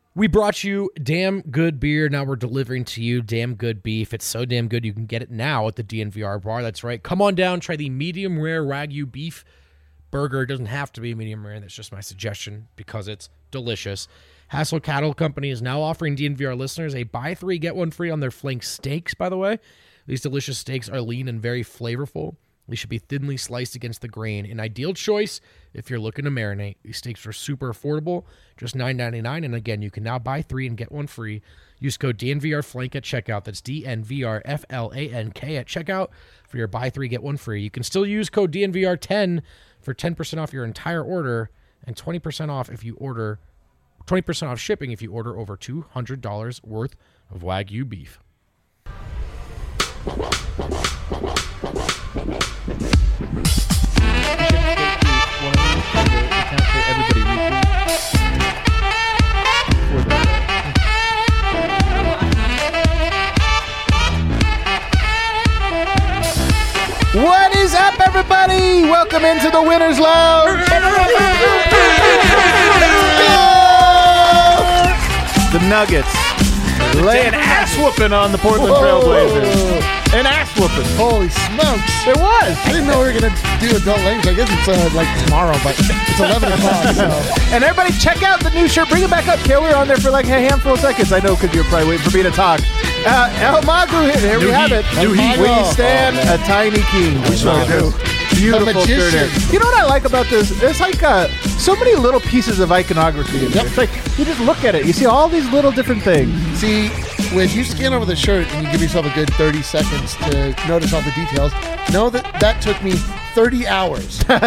We brought you damn good beer. Now we're delivering to you damn good beef. It's so damn good you can get it now at the DNVR bar. That's right. Come on down. Try the medium rare Wagyu beef burger. It doesn't have to be medium rare. That's just my suggestion because it's delicious. Hassel Cattle Company is now offering DNVR listeners a buy three, get one free on their flank steaks, by the way. These delicious steaks are lean and very flavorful. They should be thinly sliced against the grain. An ideal choice if you're looking to marinate. These steaks are super affordable, just $9.99. And again, you can now buy three and get one free. Use code DNVRFlank at checkout. That's DNVRFLANK at checkout for your buy three, get one free. You can still use code DNVR10 for 10% off your entire order and 20% off if you order 20% off shipping if you order over $200 worth of Wagyu beef. What is up, everybody? Welcome into the Winner's Lounge. The Nuggets lay an ass whooping on the Portland Trailblazers. An ass whooping. Holy smokes. It was. I didn't know we were going to do adult language. I guess it's like tomorrow, but it's 11 o'clock. So. And everybody check out the new shirt. Bring it back up, Kale. We were on there for like a handful of seconds. I know because you're probably waiting for me to talk. El Magu, here we have it. We stand a tiny king. We sure do. Beautiful shirt here. You know what I like about this? It's like so many little pieces of iconography in there. It's like you just look at it. You see all these little different things. See, when you scan over the shirt and you give yourself a good 30 seconds to notice all the details, know that took me 30 hours. But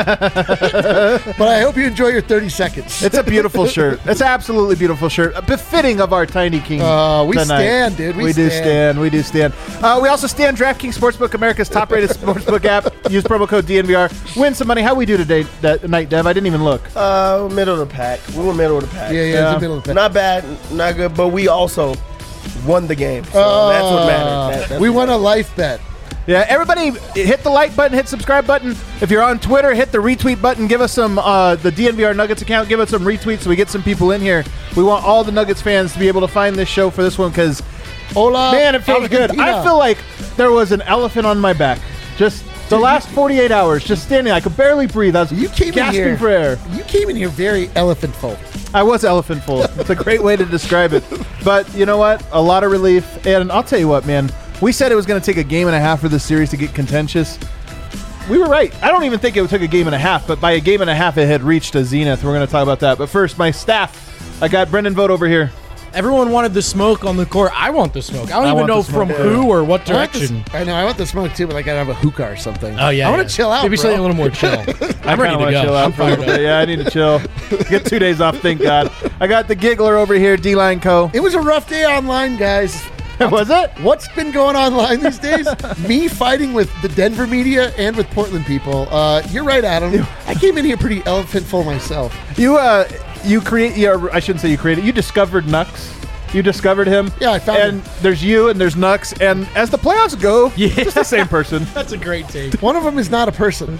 I hope you enjoy your 30 seconds. It's a beautiful shirt. It's an absolutely beautiful shirt. Befitting of our tiny king. We tonight. stand, dude. We do stand. We do stand. We also stand DraftKings Sportsbook, America's top-rated sportsbook app. Use promo code DNVR. Win some money. How we do today, that night, Dev? I didn't even look. Middle of the pack. We were middle of the pack. Yeah. It's the middle of the pack. Not bad, not good, but we also won the game. So that's what matters. We won a life bet. Yeah, everybody hit the like button, hit subscribe button. If you're on Twitter, hit the retweet button. Give us some, the DNVR Nuggets account, give us some retweets so we get some people in here. We want all the Nuggets fans to be able to find this show for this one because, man, it feels good. I feel like there was an elephant on my back. Just the last 48 hours, just standing. I could barely breathe. I was gasping for air. You came in here very elephant-full. I was elephant-full. It's a great way to describe it. But you know what? A lot of relief. And I'll tell you what, man. We said it was going to take a game and a half for this series to get contentious. We were right. I don't even think it took a game and a half, but by a game and a half, it had reached a zenith. We're going to talk about that. But first, my staff. I got Brendan Vogt over here. Everyone wanted the smoke on the court. I want the smoke. I don't even know from who or what direction. I know. I want the smoke too, but I gotta have a hookah or something. Oh yeah. I want to chill out. Maybe something a little more chill. I'm ready to go. Chill out for a little bit. Yeah, I need to chill. Get 2 days off. Thank God. I got the giggler over here, D-Line Co. It was a rough day online, guys. Was it? What's been going on online these days? Me fighting with the Denver media and with Portland people. You're right, Adam. I came in here pretty elephant-full myself. You create. Yeah, I shouldn't say you created. You discovered Nux. You discovered him. Yeah, I found him. And there's you and there's Nux. And as the playoffs go, it's the same person. That's a great take. One of them is not a person.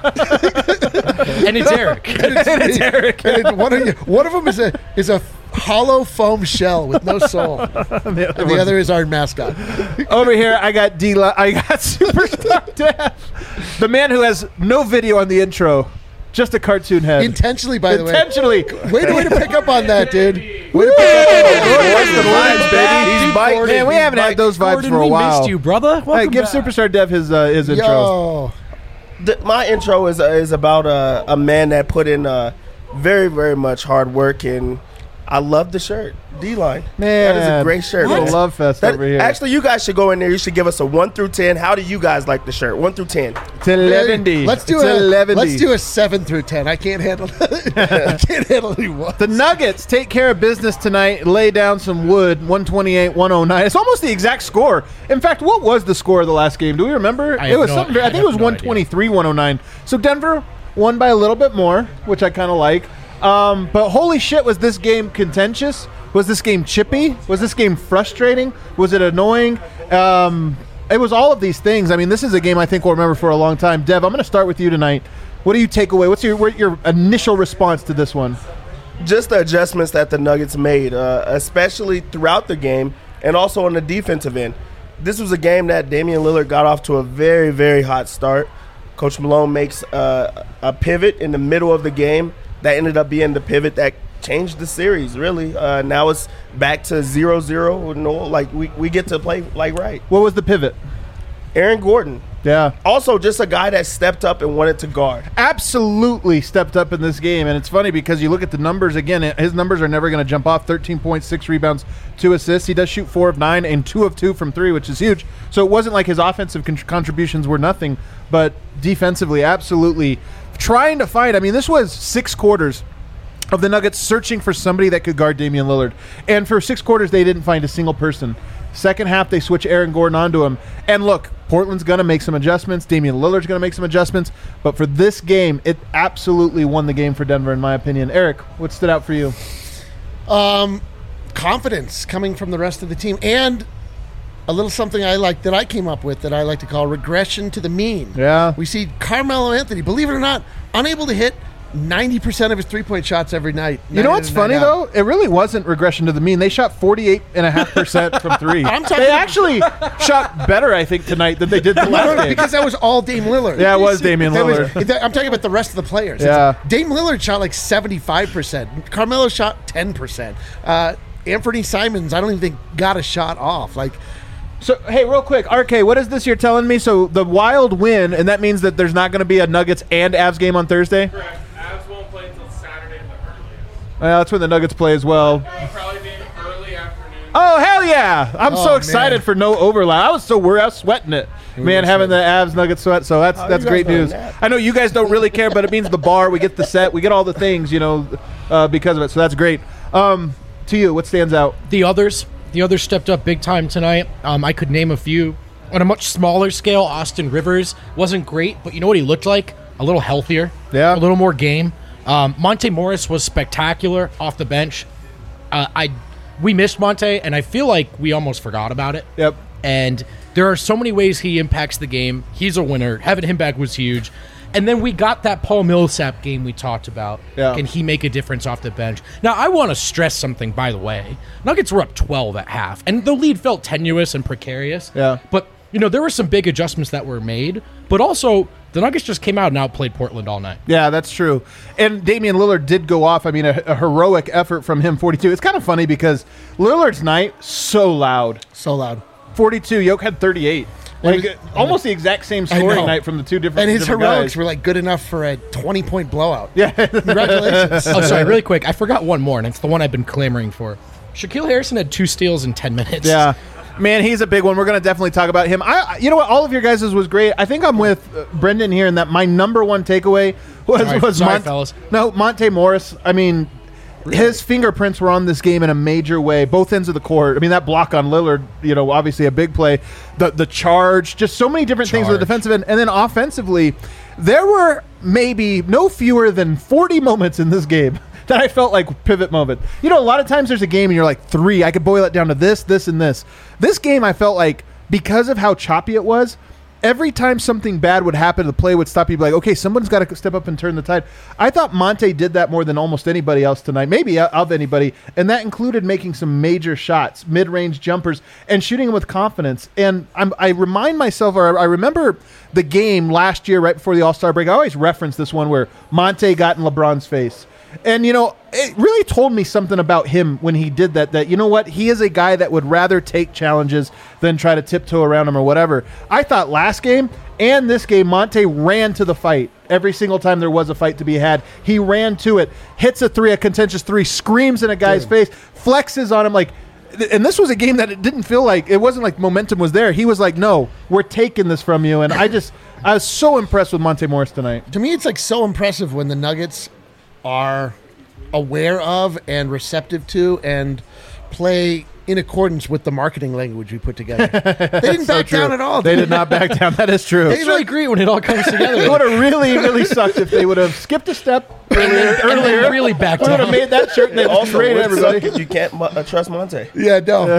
And it's Eric. It's Eric. And one of them is a hollow foam shell with no soul. And the other is our mascot. Over here, I got I got Superstar Dev, the man who has no video on the intro. Just a cartoon head. Intentionally, by the way. Intentionally. Way to pick up on that, dude. Way to pick up on that. He's biting. Man, we haven't had those vibes for a while. We missed you, brother. Hey, give Superstar Dev his intro. My intro is about a man that put in very, very much hard work, and I love the shirt. D-Line. Man. That is a great shirt. What? Love fest over here. Actually, you guys should go in there. You should give us a 1 through 10. How do you guys like the shirt? 1 through 10. It's 11. Let's do a 7 through 10. I can't handle I can't handle any ones. The Nuggets take care of business tonight. Lay down some wood. 128-109. It's almost the exact score. In fact, what was the score of the last game? Do we remember? I think it was 123-109. So Denver won by a little bit more, which I kind of like. But holy shit, was this game contentious? Was this game chippy? Was this game frustrating? Was it annoying? It was all of these things. I mean, this is a game I think we'll remember for a long time. Dev, I'm going to start with you tonight. What do you take away? What's your initial response to this one? just the adjustments that the Nuggets made, especially throughout the game and also on the defensive end. This was a game that Damian Lillard got off to a very, very hot start. Coach Malone makes a pivot in the middle of the game that ended up being the pivot that changed the series, really. Now it's back to 0-0. No, like we get to play like right. What was the pivot? Aaron Gordon. Yeah. Also just a guy that stepped up and wanted to guard. Absolutely stepped up in this game. And it's funny because you look at the numbers again, his numbers are never going to jump off. 13 points, 6 rebounds, 2 assists. He does shoot 4 of 9 and 2 of 2 from 3, which is huge. So it wasn't like his offensive contributions were nothing, but defensively, absolutely trying to find. I mean, this was 6 quarters of the Nuggets searching for somebody that could guard Damian Lillard. And for 6 quarters, they didn't find a single person. Second half, they switch Aaron Gordon onto him. And look, Portland's going to make some adjustments. Damian Lillard's going to make some adjustments. But for this game, it absolutely won the game for Denver, in my opinion. Eric, what stood out for you? Confidence coming from the rest of the team. And a little something I like that I came up with that I like to call regression to the mean. Yeah. We see Carmelo Anthony, believe it or not, unable to hit 90% of his three-point shots every night. You know what's funny, though? It really wasn't regression to the mean. They shot 48.5% from 3. They actually shot better, I think, tonight than they did the last game. Because that was all Dame Lillard. Yeah, it was Damian Lillard. I'm talking about the rest of the players. Yeah. Dame Lillard shot like 75%. Carmelo shot 10%. Anthony Simons, I don't even think got a shot off. So, hey, real quick, RK, what is this you're telling me? So the Wild win, and that means that there's not going to be a Nuggets and Avs game on Thursday? Correct. Avs won't play until Saturday at the earliest. Well, that's when the Nuggets play as well. It'll probably be an early afternoon. Oh, hell yeah. I'm so excited for no overlap. I was so worried. I was sweating it. Man, having the Avs Nuggets sweat, so that's great news. I know you guys don't really care, but it means the bar, we get the set, we get all the things, because of it. So that's great. To you, what stands out? The others stepped up big time tonight. I could name a few. On a much smaller scale, Austin Rivers wasn't great, but you know what he looked like? A little healthier. Yeah. A little more game. Monte Morris was spectacular off the bench. We missed Monte, and I feel like we almost forgot about it. Yep. And there are so many ways he impacts the game. He's a winner. Having him back was huge. And then we got that Paul Millsap game we talked about. Yeah. Can he make a difference off the bench? Now, I want to stress something, by the way. Nuggets were up 12 at half, and the lead felt tenuous and precarious. Yeah. But, there were some big adjustments that were made. But also, the Nuggets just came out and outplayed Portland all night. Yeah, that's true. And Damian Lillard did go off. I mean, a heroic effort from him, 42. It's kind of funny because Lillard's night, so loud. So loud. 42. Yoke had 38. Almost the exact same scoring night from the two different And his heroics guys. were good enough for a 20-point blowout. Yeah. Congratulations. Oh, sorry, really quick. I forgot one more, and it's the one I've been clamoring for. Shaquille Harrison had 2 steals in 10 minutes. Yeah. Man, he's a big one. We're going to definitely talk about him. You know what? All of your guys' was great. I think I'm with Brendan here in that my number one takeaway was fellas. No, Monte Morris. I mean, his fingerprints were on this game in a major way, both ends of the court. I mean, that block on Lillard, obviously a big play. The charge, just so many different things on the defensive end. And then offensively, there were maybe no fewer than 40 moments in this game that I felt like pivot moment. A lot of times there's a game and you're like, 3, I could boil it down to this, this, and this. This game, I felt like, because of how choppy it was, every time something bad would happen, the play would stop. You'd be like, okay, someone's got to step up and turn the tide. I thought Monte did that more than almost anybody else tonight, maybe of anybody, and that included making some major shots, mid-range jumpers, and shooting them with confidence. And I remind myself, or I remember the game last year right before the All-Star break. I always reference this one where Monte got in LeBron's face. And, it really told me something about him when he did that, you know what? He is a guy that would rather take challenges than try to tiptoe around him or whatever. I thought last game and this game, Monte ran to the fight. Every single time there was a fight to be had, he ran to it, hits a contentious 3, screams in a guy's face, flexes on him and this was a game that it didn't feel like, it wasn't like momentum was there. He was like, no, we're taking this from you. And I was so impressed with Monte Morris tonight. To me, it's so impressive when the Nuggets are aware of and receptive to and play in accordance with the marketing language we put together. They didn't back down at all. They did not back down. That is true. It's really great when it all comes together. It would have really, really sucked if they would have skipped a step earlier. Really backed down. Would have made that shirt and they Also, traded everybody. you can't trust Monte. Yeah, no.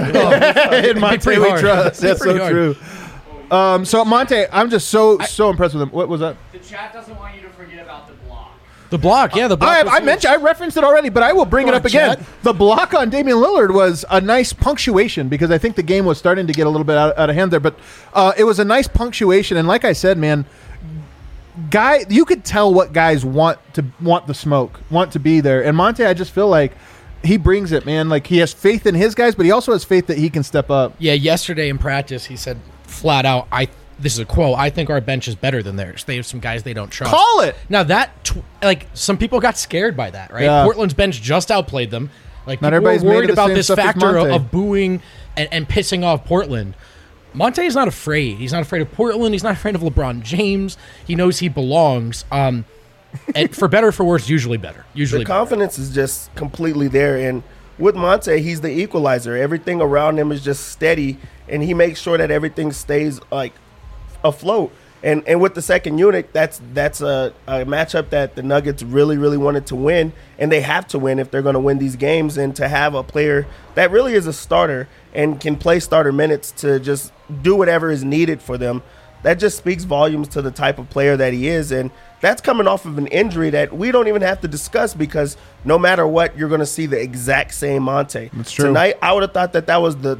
In Monte we trust. That's so true. So Monte, I'm just so impressed with him. What was that? The chat doesn't want you to forget about the block. The block, the block. I referenced it already, but I will bring it up again. Chad. The block on Damian Lillard was a nice punctuation because I think the game was starting to get a little bit out of hand there. But it was a nice punctuation, and like I said, man, you could tell what guys want the smoke, want to be there. And Monte, I just feel like he brings it, man. Like he has faith in his guys, but he also has faith that he can step up. Yeah, yesterday in practice, he said flat out, this is a quote, I think our bench is better than theirs. They have some guys they don't trust. Call it. Now that, some people got scared by that, right? Yeah. Portland's bench just outplayed them. Like, Not people were everybody's made worried of the about same this stuff as factor Monte. of booing and pissing off Portland. Monte is not afraid. He's not afraid of Portland. He's not afraid of LeBron James. He knows he belongs. And for better or for worse, usually better. Usually the confidence is just completely there. And with Monte, he's the equalizer. Everything around him is just steady, and he makes sure that everything stays like afloat. And with the second unit, that's a matchup that the Nuggets really, really wanted to win, and they have to win if they're going to win these games. And to have a player that really is a starter and can play starter minutes to just do whatever is needed for them, that just speaks volumes to the type of player that he is. And that's coming off of an injury that we don't even have to discuss, because no matter what, you're going to see the exact same Monte. That's true. Tonight, I would have thought that was the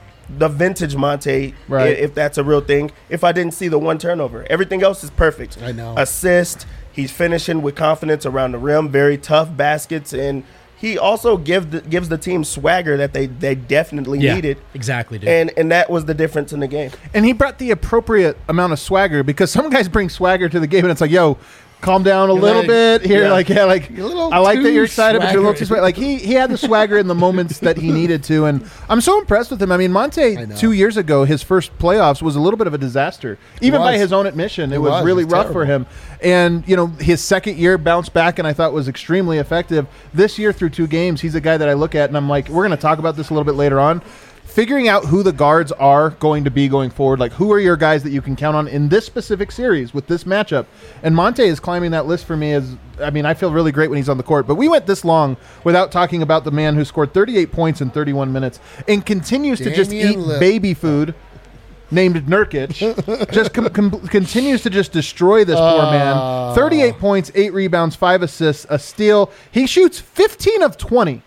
vintage Monte, right, if that's a real thing, if I didn't see the one turnover. Everything else is perfect. I know. Assist, he's finishing with confidence around the rim, very tough baskets, and he also gives the team swagger that they definitely needed. Exactly, dude. And that was the difference in the game. And he brought the appropriate amount of swagger, because some guys bring swagger to the game, and it's like, yo, calm down a little bit here. Yeah. I like that you're excited, but you're a little too swagger. Like he had the swagger in the moments that he needed to, and I'm so impressed with him. I mean, Monte 2 years ago, his first playoffs was a little bit of a disaster, even by his own admission. It was really rough for him. And his second year bounced back, and I thought was extremely effective. This year through 2 games, he's a guy that I look at, and I'm like, we're going to talk about this a little bit later on. Figuring out who the guards are going to be going forward, like who are your guys that you can count on in this specific series with this matchup. And Monte is climbing that list for me. I feel really great when he's on the court. But we went this long without talking about the man who scored 38 points in 31 minutes and continues to just eat baby food, named Nurkic, just continues to just destroy this poor man. 38 points, 8 rebounds, 5 assists, a steal. He shoots 15 of 20.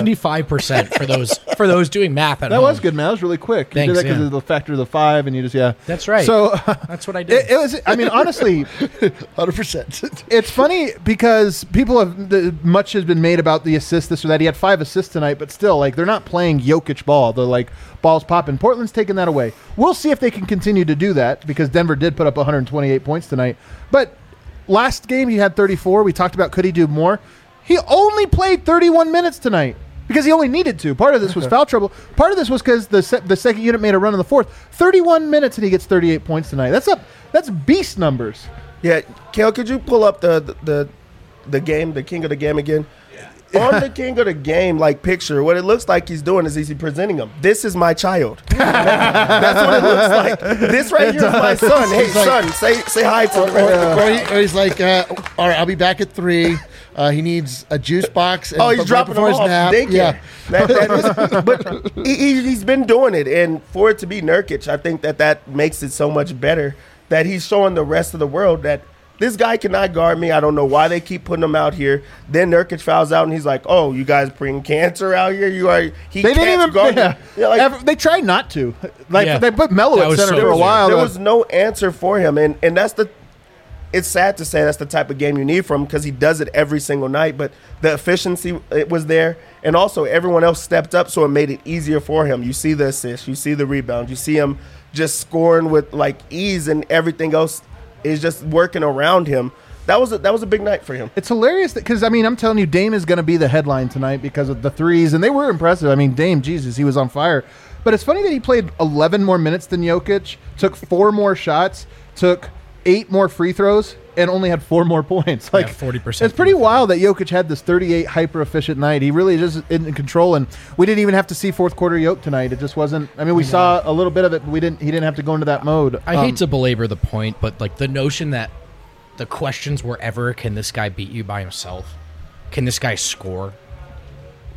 75% for those doing math at home. That was good, man. That was really quick. Thanks, you did that because of the factor of the 5, and you just, That's right. So that's what I did. It was, honestly, 100%. It's funny because much has been made about the assist, this or that. He had 5 assists tonight, but still, they're not playing Jokic ball. They're balls popping. Portland's taking that away. We'll see if they can continue to do that, because Denver did put up 128 points tonight. But last game he had 34. We talked about could he do more. He only played 31 minutes tonight because he only needed to. Part of this was foul trouble. Part of this was because the second unit made a run in the fourth. 31 minutes and he gets 38 points tonight. That's beast numbers. Yeah, Kale, could you pull up the game, the king of the game again? Yeah. On the king of the game, picture, what it looks like he's doing is he's presenting him. This is my child. That's what it looks like. This right here is my son. Hey, son, say hi to him. Or he's like, all right, I'll be back at 3. He needs a juice box. And he's dropping him off. Yeah. But he's been doing it. And for it to be Nurkic, I think that makes it so much better that he's showing the rest of the world that this guy cannot guard me. I don't know why they keep putting him out here. Then Nurkic fouls out, and he's like, "Oh, you guys bring cancer out here? They didn't even guard me." They tried not to. They put Melo at center for a while. There was no answer for him, and that's the. It's sad to say that's the type of game you need from him, because he does it every single night. But the efficiency, it was there, and also everyone else stepped up, so it made it easier for him. You see the assist, you see the rebound, you see him just scoring with ease, and everything else is just working around him. That was a big night for him. It's hilarious because I'm telling you, Dame is going to be the headline tonight because of the threes, and they were impressive. Dame, Jesus, he was on fire. But it's funny that he played 11 more minutes than Jokic, took 4 more shots, took 8 more free throws, and only had 4 more points. 40%. It's pretty wild that Jokic had this 38 hyper efficient night. He really is in control, and we didn't even have to see fourth quarter Jokic tonight. It just wasn't. We saw a little bit of it, but he didn't have to go into that mode. I hate to belabor the point, but the notion that the questions were ever, can this guy beat you by himself? Can this guy score?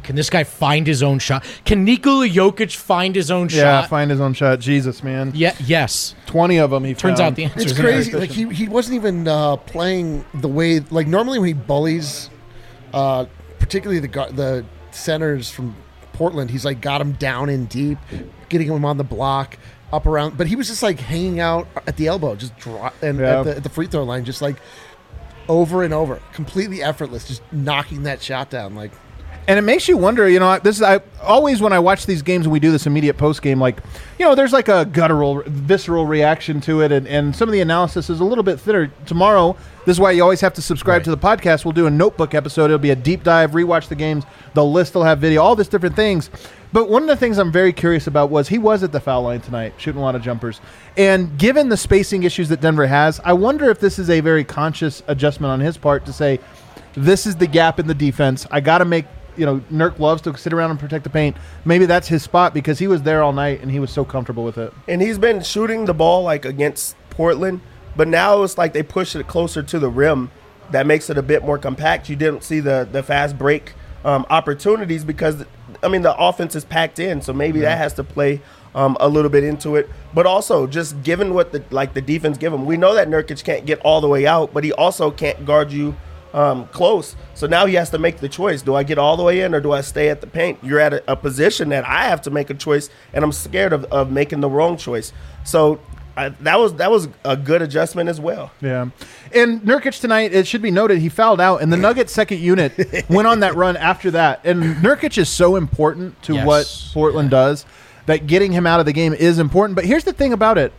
Can this guy find his own shot? Can Nikola Jokic find his own shot? Yeah, find his own shot. Jesus, man. Yeah, yes. 20 of them he Turns found. out the answer It's is crazy. no. Like he wasn't even playing the way like normally when he bullies, particularly the centers from Portland, he's like got him down in deep, getting him on the block, up around. But he was just like hanging out at the elbow, just at the free throw line, just like over and over, completely effortless, just knocking that shot down like. And it makes you wonder, I always when I watch these games and we do this immediate post game, like, there's like a guttural, visceral reaction to it, and some of the analysis is a little bit thinner. Tomorrow, this is why you always have to subscribe to the podcast. We'll do a notebook episode. It'll be a deep dive, rewatch the games. The list will have video, all these different things. But one of the things I'm very curious about was he was at the foul line tonight, shooting a lot of jumpers. And given the spacing issues that Denver has, I wonder if this is a very conscious adjustment on his part to say, this is the gap in the defense. I got to make. Nurk loves to sit around and protect the paint. Maybe that's his spot because he was there all night and he was so comfortable with it. And he's been shooting the ball like against Portland, but now it's like they push it closer to the rim. That makes it a bit more compact. You didn't see the fast break opportunities because, the offense is packed in, so maybe that has to play a little bit into it. But also, just given what the defense give him, we know that Nurkic can't get all the way out, but he also can't guard you close. So now he has to make the choice. Do I get all the way in or do I stay at the paint? You're at a position that I have to make a choice, and I'm scared of making the wrong choice. So that was a good adjustment as well. Yeah. And Nurkic tonight, it should be noted, he fouled out, and the Nuggets second unit went on that run after that. And Nurkic is so important to what Portland does that getting him out of the game is important. But here's the thing about it.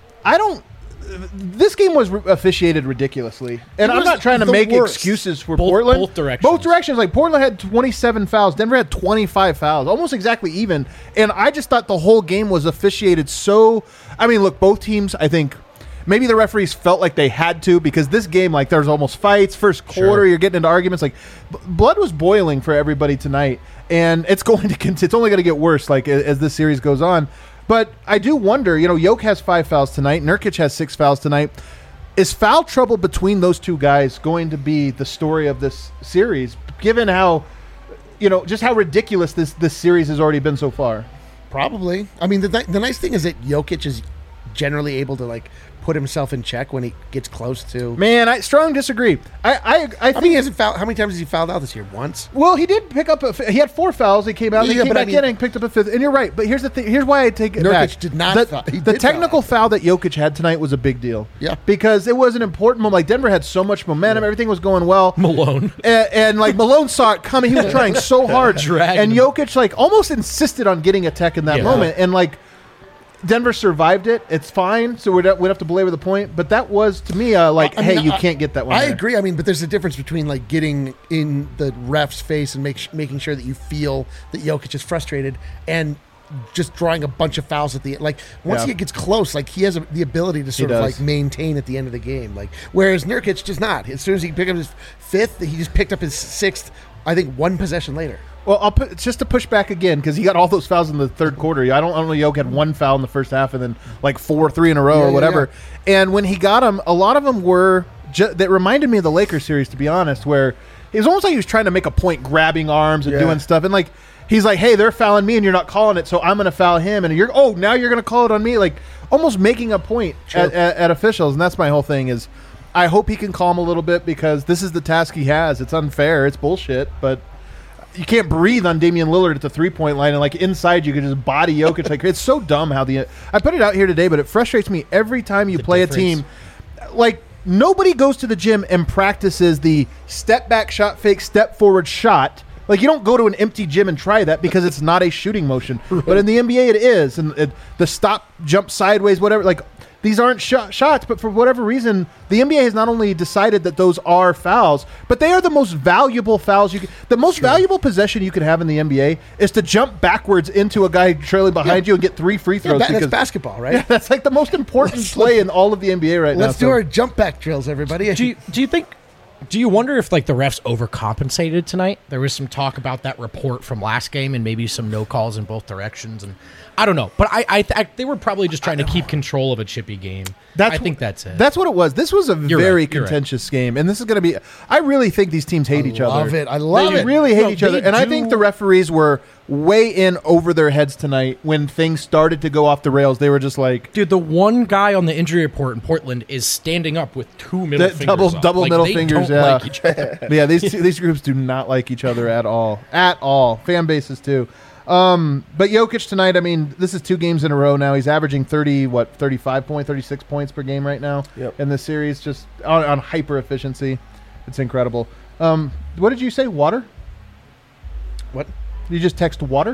This game was officiated ridiculously, and I'm not trying to make excuses for Portland. Both directions. Both directions. Like Portland had 27 fouls, Denver had 25 fouls, almost exactly even. And I just thought the whole game was officiated so. Look, both teams. I think maybe the referees felt like they had to because this game, like, there was almost fights. First quarter, you're getting into arguments. Like, blood was boiling for everybody tonight, and it's only going to get worse. Like as this series goes on. But I do wonder, Jokic has 5 fouls tonight. Nurkic has 6 fouls tonight. Is foul trouble between those two guys going to be the story of this series, given how, just how ridiculous this series has already been so far? Probably. The nice thing is that Jokic is generally able to, put himself in check when he gets close to. Man, I strongly disagree. I think he hasn't fouled. How many times has he fouled out this year? Once. Well, he did pick up. He had 4 fouls. He came out. He came back in and picked up a 5th. And you're right. But here's the thing. Here's why I take it back. Nurkic did not. The technical foul that Jokic had tonight was a big deal. Yeah. Because it was an important moment. Like Denver had so much momentum. Everything was going well. Malone. And Malone saw it coming. He was trying so hard. Dragging and Jokic almost insisted on getting a tech in that moment. And Denver survived it. It's fine, so we'd have to belabor the point. But that was, to me, hey, you can't get that one. I agree. But there's a difference between getting in the ref's face and making sure that you feel that Jokic is frustrated and just drawing a bunch of fouls at the end. Once he gets close, he has the ability to sort of maintain at the end of the game. Whereas Nurkic does not. As soon as he picked up his 5th, he just picked up his 6th. I think 1 possession later. Well, just to push back again because he got all those fouls in the third quarter. I don't know. Jokic had 1 foul in the first half and then 3 in a row or whatever. Yeah. And when he got them, a lot of them were that reminded me of the Lakers series, to be honest, where it was almost like he was trying to make a point, grabbing arms and doing stuff, and he's like, "Hey, they're fouling me, and you're not calling it, so I'm going to foul him." And now you're going to call it on me, almost making a point at officials. And that's my whole thing is, I hope he can calm a little bit because this is the task he has. It's unfair. It's bullshit, but. You can't breathe on Damian Lillard at the 3-point line, and inside you can just body Jokic. It's so dumb how I put it out here today, but it frustrates me every time you play a team. Nobody goes to the gym and practices the step back shot fake, step forward shot. You don't go to an empty gym and try that because it's not a shooting motion. Right. But in the NBA it is, and the stop, jump sideways, whatever. These aren't shots, but for whatever reason, the NBA has not only decided that those are fouls, but they are the most valuable fouls. The most valuable possession you could have in the NBA is to jump backwards into a guy trailing behind you and get 3 free throws. That's basketball, right? Yeah, that's the most important play in all of the NBA right now. Let's do our jump back drills, everybody. Do you think Do you wonder if like the refs overcompensated tonight? There was some talk about that report from last game and maybe some no calls in both directions, and I don't know. But I they were probably just trying to keep control of a chippy game. I think that's it. That's what it was. This was a very contentious game, and this is going to be. I really think these teams hate each other. I love it. They really hate each other, and I think the referees were way in over their heads tonight when things started to go off the rails. They were just like, dude, the one guy on the injury report in Portland is standing up with two middle fingers double like, middle they fingers. Don't like each other. Yeah, these groups do not like each other at all. Fan bases too. But Jokic tonight, I mean, this is 2 games in a row now. He's averaging 36 points per game right now in this series, just on hyper efficiency. It's incredible. What did you say? Water? What? Did you just text water?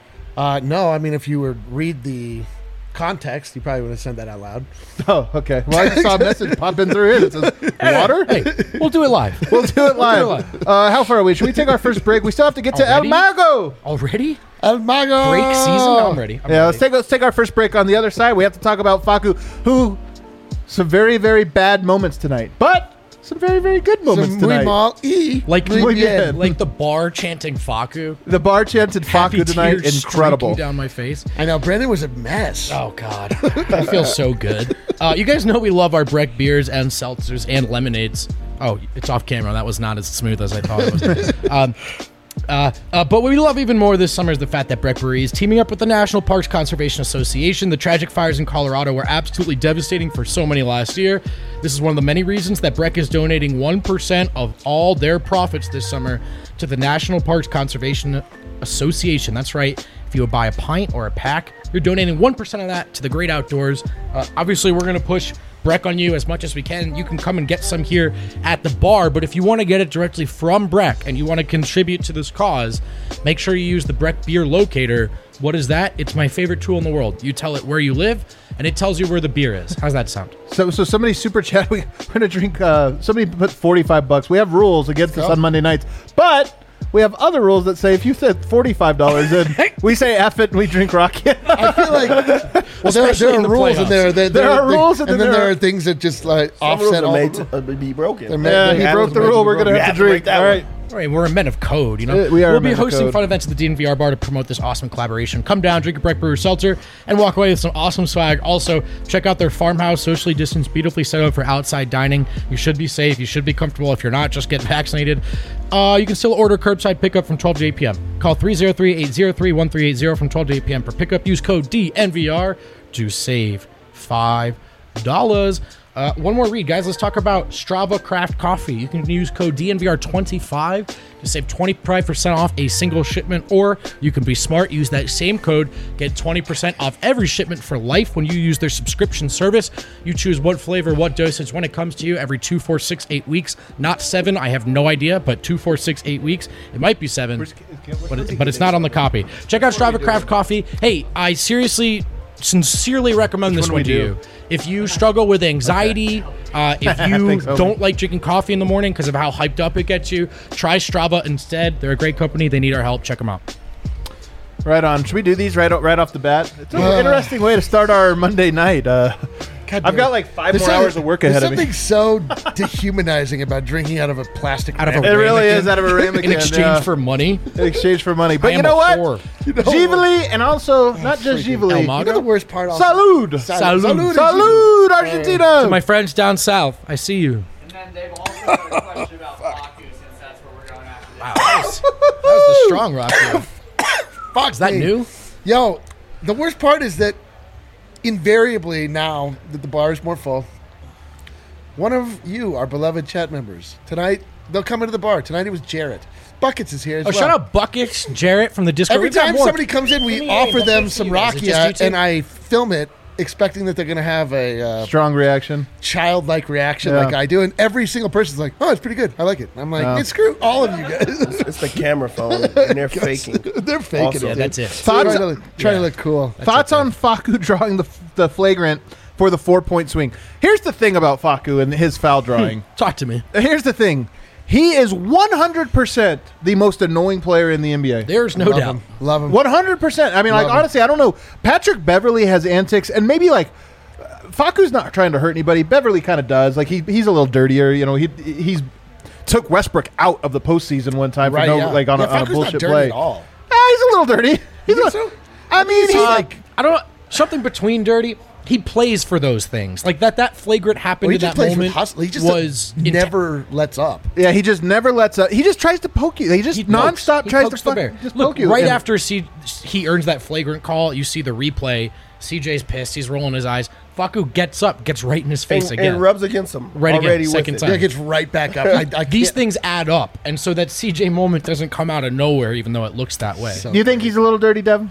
No, I mean, if you would read the context, you probably would have sent that out loud. Oh, okay. Well, I just saw a message pop in through here that says water. Hey, we'll do it live. We'll do it live. How far are we? Should we take our first break? We still have to get to El Mago. Already? El Mago. Break season? I'm ready. Let's take our first break. On the other side, we have to talk about Facu, who some very, very bad moments tonight, but some very, very good moments tonight. Like the bar chanting Facu. The bar chanted Facu tonight. Incredible. Down my face. I know. Brandon was a mess. Oh, God. I feel so good. You guys know we love our Breck beers and seltzers and lemonades. Oh, it's off camera. That was not as smooth as I thought it was. But what we love even more this summer is the fact that Breck Brewery is teaming up with the National Parks Conservation Association. The tragic fires in Colorado were absolutely devastating for so many last year. This is one of the many reasons that Breck is donating 1% of all their profits this summer to the National Parks Conservation Association. That's right. If you would buy a pint or a pack, you're donating 1% of that to the great outdoors. Obviously, we're going to push Breck on you as much as we can. You can come and get some here at the bar, but if you want to get it directly from Breck and you want to contribute to this cause, make sure you use the Breck Beer Locator. What is that? It's my favorite tool in the world. You tell it where you live, and it tells you where the beer is. How's that sound? So somebody super chat. We're gonna drink. Somebody put $45. We have rules against this on Monday nights, but we have other rules that say if you said $45 in, we say F it and we drink Rocket. I feel like there are rules in there. There are rules, and then there are things that just like offset all. Made to be broken. He broke the rule. We're gonna have to drink. All right. All right, we're a men of code, you know. We'll be hosting fun events at the DNVR bar to promote this awesome collaboration. Come down, drink a Breck Brewer seltzer, and walk away with some awesome swag. Also, check out their farmhouse, socially distanced, beautifully set up for outside dining. You should be safe. You should be comfortable. If you're not, just get vaccinated. You can still order curbside pickup from 12 to 8 p.m. Call 303-803-1380 from 12 to 8 p.m. for pickup. Use code DNVR to save $5. One more read, guys. Let's talk about Strava Craft Coffee. You can use code DNVR25 to save 25% off a single shipment, or you can be smart, use that same code, get 20% off every shipment for life when you use their subscription service. You choose what flavor, what dosage when it comes to you every 2, 4, 6, 8 weeks. Not 7, I have no idea, but 2, 4, 6, 8 weeks. It might be 7, but it's not on the copy. Check out Strava Craft Coffee. Hey, I sincerely recommend this one to you. If you struggle with anxiety, if you don't like drinking coffee in the morning because of how hyped up it gets you, try Strava instead. They're a great company. They need our help. Check them out. Right on. Should we do these right off the bat? It's an interesting way to start our Monday night. I've got like 5 more hours of work ahead of me. There's something so dehumanizing about drinking out of a plastic ramekin. It really is out of a ramekin. In exchange for money. In exchange for money. But you know what? Givali, and also not just Givali. You know the worst part? Salud! Salud, Argentina! To my friends down south, I see you. And then they've also got a question about Facu, since that's what we're going after. Wow, that was the strong rock here. Fuck, is that new? Yo, the worst part is that invariably now that the bar is more full, one of you, our beloved chat members, tonight, they'll come into the bar. Tonight it was Jarrett. Buckets is here as well. Shout out Buckets, Jarrett from the Discord. Every time somebody comes in, we offer them some rakia, and I film it expecting that they're going to have a strong reaction, childlike reaction like I do, and every single person's like, "Oh, it's pretty good. I like it." I'm like, "Screw all of you guys." It's the camera phone, and they're faking. They're faking it. Yeah, that's it. Trying to look cool. Thoughts on Facu drawing the flagrant for the 4-point swing? Here's the thing about Facu and his foul drawing. Talk to me. Here's the thing. He is 100% the most annoying player in the NBA. There's no doubt. Love him. 100%. I mean, honestly, I don't know. Patrick Beverley has antics, and maybe Facu's not trying to hurt anybody. Beverley kind of does. Like he's a little dirtier. You know, he's took Westbrook out of the postseason one time for like on a Facu's bullshit not dirty play. at all. He's a little dirty. I mean, he's like I don't know, something between dirty. He plays for those things. Like that flagrant happened in that moment He just was never lets up. Yeah, he just never lets up. He just tries to poke you. He just nonstop tries to poke you. Right after he earns that flagrant call, you see the replay. CJ's pissed. He's rolling his eyes. Facu gets up, gets right in his face again. And rubs against him. Right already again, second time. Yeah, gets right back up. These things add up. And so that CJ moment doesn't come out of nowhere, even though it looks that way. Do you think he's a little dirty, Devin?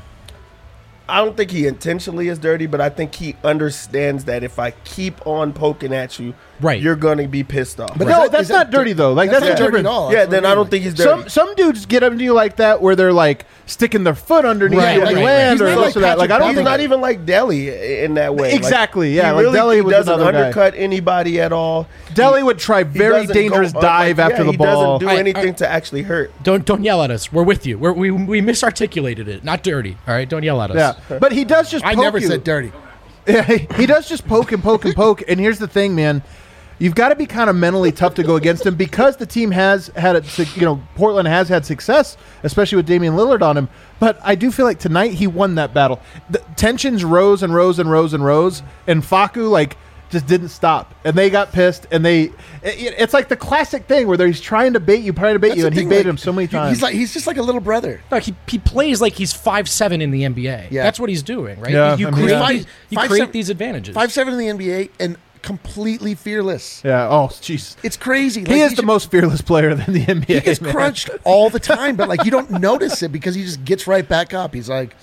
I don't think he intentionally is dirty, but I think he understands that if I keep on poking at you, you're going to be pissed off. But no, that's not dirty, though. Like, that's not dirty at all. Yeah, then I don't think he's dirty. Some dudes get up to you like that where they're, like, sticking their foot underneath you when you land or this or that. Like, I don't He's not even like Deli in that way. Exactly, yeah. He really Deli doesn't undercut anybody at all. Deli would try very dangerous dive after the ball. He doesn't do anything to actually hurt. Don't yell at us. We're with you. We misarticulated it. Not dirty. All right, don't yell at us. Yeah, but he does just poke you. I never said dirty. Yeah, he does just poke and poke and poke. And here's the thing, man. You've got to be kind of mentally tough to go against him because the team has had, Portland has had success, especially with Damian Lillard on him. But I do feel like tonight he won that battle. The tensions rose and rose and rose and rose, and Facu just didn't stop, and they got pissed, and it's like the classic thing where he's trying to bait you, and he baited him so many times. He's just like a little brother. No, he plays like he's 5'7" in the NBA. Yeah. That's what he's doing, right? Yeah, You create these advantages. 5'7" in the NBA and completely fearless. Yeah. Oh, jeez. It's crazy. He is the most fearless player in the NBA. He gets crunched all the time, but you don't notice it because he just gets right back up. He's like.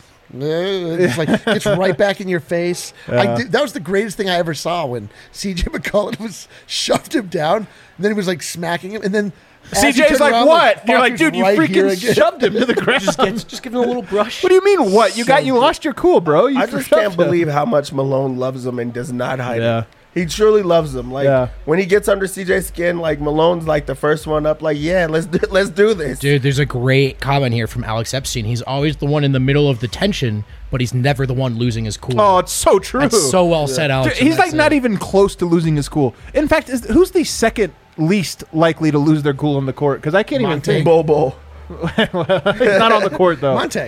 It's like gets right back in your face. Yeah. That was the greatest thing I ever saw when CJ McCollum shoved him down, and then he was like smacking him, and then CJ's like, around, what? And you're like, dude, you right freaking shoved him to the ground. just give him a little brush. What do you mean, what? You lost your cool, bro. I just can't believe how much Malone loves him and does not hide it. He truly loves him. When he gets under CJ's skin, Malone's the first one up. Let's do this. Dude, there's a great comment here from Alex Epstein. He's always the one in the middle of the tension, but he's never the one losing his cool. Oh, it's so true. That's so well said, Alex. Dude, he's not even close to losing his cool. In fact, who's the second least likely to lose their cool on the court? Because I can't even think. Bobo. He's not on the court though. Monte.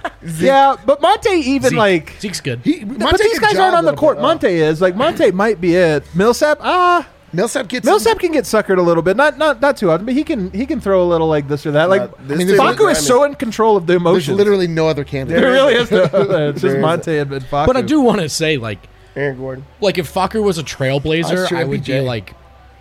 Yeah, but Monte even Zeke's good. But these guys aren't on the court. Monte is Monte might be it. Millsap, Millsap can get suckered a little bit, not too often, but he can throw a little like this or that. Facu is so in control of the emotions. There's literally no other candidate. There really is. It's just Monte and Facu. But I do want to say, Aaron Gordon. If Facu was a trailblazer, Sure I would BJ. be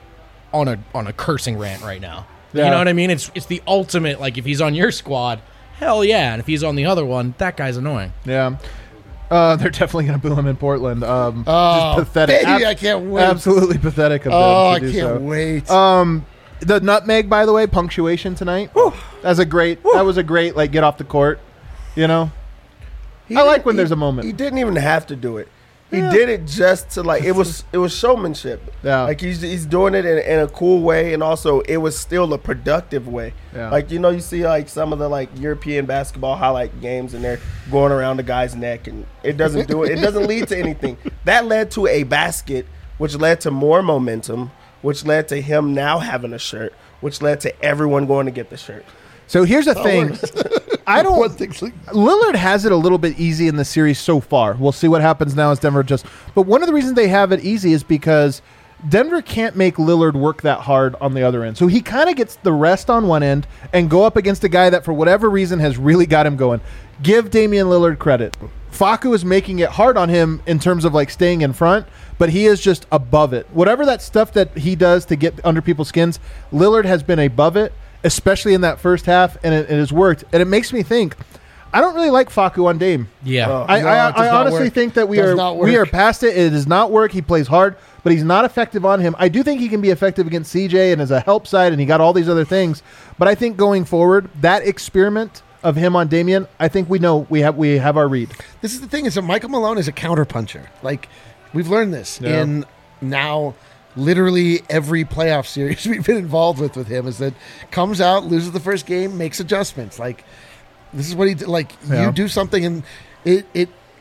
on a cursing rant right now. Yeah. You know what I mean? It's the ultimate. If he's on your squad, hell yeah, and if he's on the other one, that guy's annoying. Yeah. They're definitely going to boo him in Portland. Just pathetic. Baby, I can't wait. Absolutely pathetic of them I to do can't so. wait. The nutmeg, by the way, punctuation tonight. That was a great get off the court. I like when there's a moment. He didn't even have to do it. He did it just to it was showmanship. Yeah. He's doing it in a cool way, and also it was still a productive way. Yeah. You see some of the European basketball highlight games, and they're going around the guy's neck, and it doesn't do it. It doesn't lead to anything. That led to a basket, which led to more momentum, which led to him now having a shirt, which led to everyone going to get the shirt. So here's the thing. Lillard has it a little bit easy in the series so far. We'll see what happens now as Denver adjusts. But one of the reasons they have it easy is because Denver can't make Lillard work that hard on the other end. So he kind of gets the rest on one end and go up against a guy that for whatever reason has really got him going. Give Damian Lillard credit. Facu is making it hard on him in terms of staying in front, but he is just above it. Whatever that stuff that he does to get under people's skins, Lillard has been above it, especially in that first half, and it has worked. And it makes me think, I don't really like Facu on Dame. Yeah. I honestly think that we are past it. It does not work. He plays hard, but he's not effective on him. I do think he can be effective against CJ and as a help side, and he got all these other things. But I think going forward, that experiment of him on Damian, I think we have our read. This is the thing, is that Michael Malone is a counterpuncher. We've learned this in now literally every playoff series we've been involved with him, is that comes out, loses the first game, makes adjustments. This is what he did. You do something and it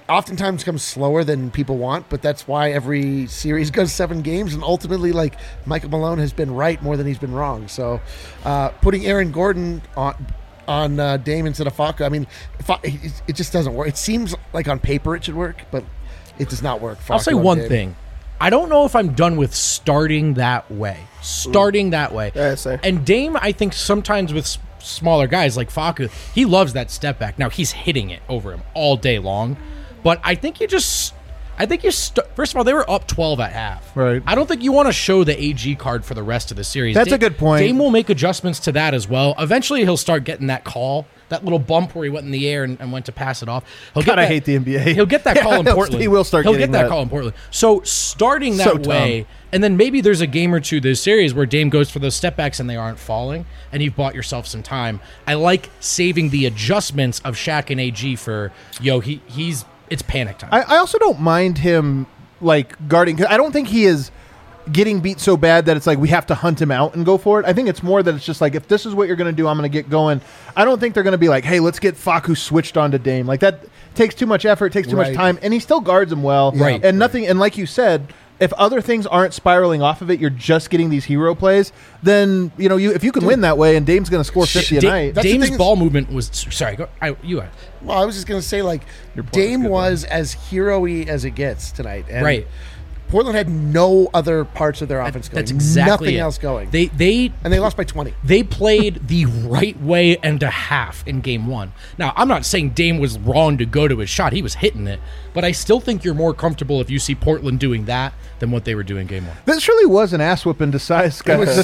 oftentimes comes slower than people want, but that's why every series goes 7 games, and ultimately, like, Michael Malone has been right more than he's been wrong. So putting Aaron Gordon on Dame instead of Facu, I mean, it just doesn't work. It seems like on paper it should work, but it does not work. I'll say one thing. I don't know if I'm done with starting that way. Yeah, same. And Dame, I think sometimes with smaller guys like Facu, he loves that step back. Now, he's hitting it over him all day long. But I think first of all, they were up 12 at half. Right. I don't think you want to show the AG card for the rest of the series. That's a good point. Dame will make adjustments to that as well. Eventually, he'll start getting that call, that little bump where he went in the air and went to pass it off. I hate the NBA. He'll get that call in Portland. He will start He'll getting get that call in Portland. So starting that way, and then maybe there's a game or two this series where Dame goes for those step backs and they aren't falling, and you've bought yourself some time. I like saving the adjustments of Shaq and AG for, it's panic time. I also don't mind him like guarding, because I don't think he is getting beat so bad that it's like we have to hunt him out and go for it. I think it's more that it's just like, if this is what you're going to do, I'm going to get going. I don't think they're going to be like, hey, let's get Facu switched onto Dame. Like, that takes too much effort, takes too much time, and he still guards him well. Right. And nothing, and like you said, if other things aren't spiraling off of it, you're just getting these hero plays, then, if you can win that way and Dame's going to score 50 a night. Dame's ball movement was, sorry, go, you had. Well, I was just going to say, like, Dame was as hero-y as it gets tonight. And right. Portland had no other parts of their offense going. That's exactly nothing it. else going. And they lost by 20. They played the right way and a half in game 1. Now, I'm not saying Dame was wrong to go to his shot. He was hitting it. But I still think you're more comfortable if you see Portland doing that than what they were doing game 1. This really was an ass whooping disguised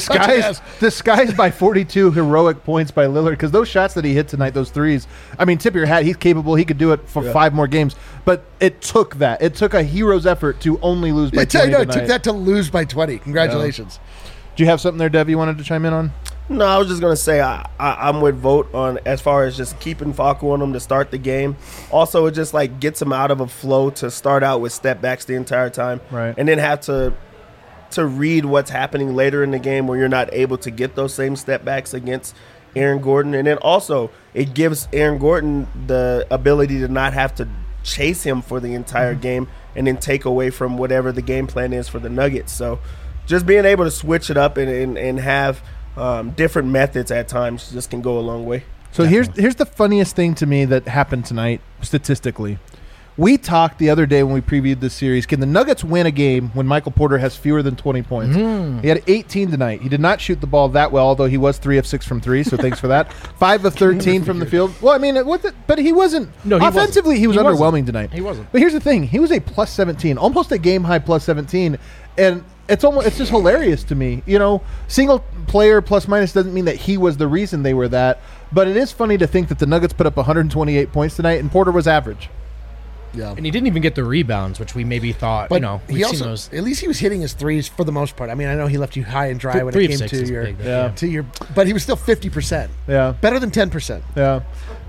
by 42 heroic points by Lillard, because those shots that he hit tonight, those threes, I mean, tip of your hat, he's capable. He could do it for 5 more games. But it took that. It took a hero's effort to only lose by 20 it took that to lose by 20. Congratulations. Yeah. Do you have something there, Dev, you wanted to chime in on? No, I was just going to say I'm with Vogt on as far as just keeping Facu on him to start the game. Also, it just like gets him out of a flow to start out with step backs the entire time. Right. And then have to read what's happening later in the game where you're not able to get those same step backs against Aaron Gordon. And then also it gives Aaron Gordon the ability to not have to chase him for the entire game and then take away from whatever the game plan is for the Nuggets. So just being able to switch it up and have different methods at times just can go a long way. So here's the funniest thing to me that happened tonight statistically. We talked the other day when we previewed this series, can the Nuggets win a game when Michael Porter has fewer than 20 points? He had 18 tonight. He did not shoot the ball that well, although he was 3 of 6 from 3, so thanks for that. 5 of 13 from the field. Well, I mean, but he wasn't. No, offensively, he was underwhelming tonight. He wasn't. But here's the thing. He was a plus 17, almost a game-high plus 17, and it's just hilarious to me. Single player plus minus doesn't mean that he was the reason they were that, but it is funny to think that the Nuggets put up 128 points tonight, and Porter was average. Yeah. And he didn't even get the rebounds, which we maybe thought, but we've seen those. At least he was hitting his threes for the most part. I mean, I know he left you high and dry when it came to your, but he was still 50%. Yeah. Better than 10%. Yeah.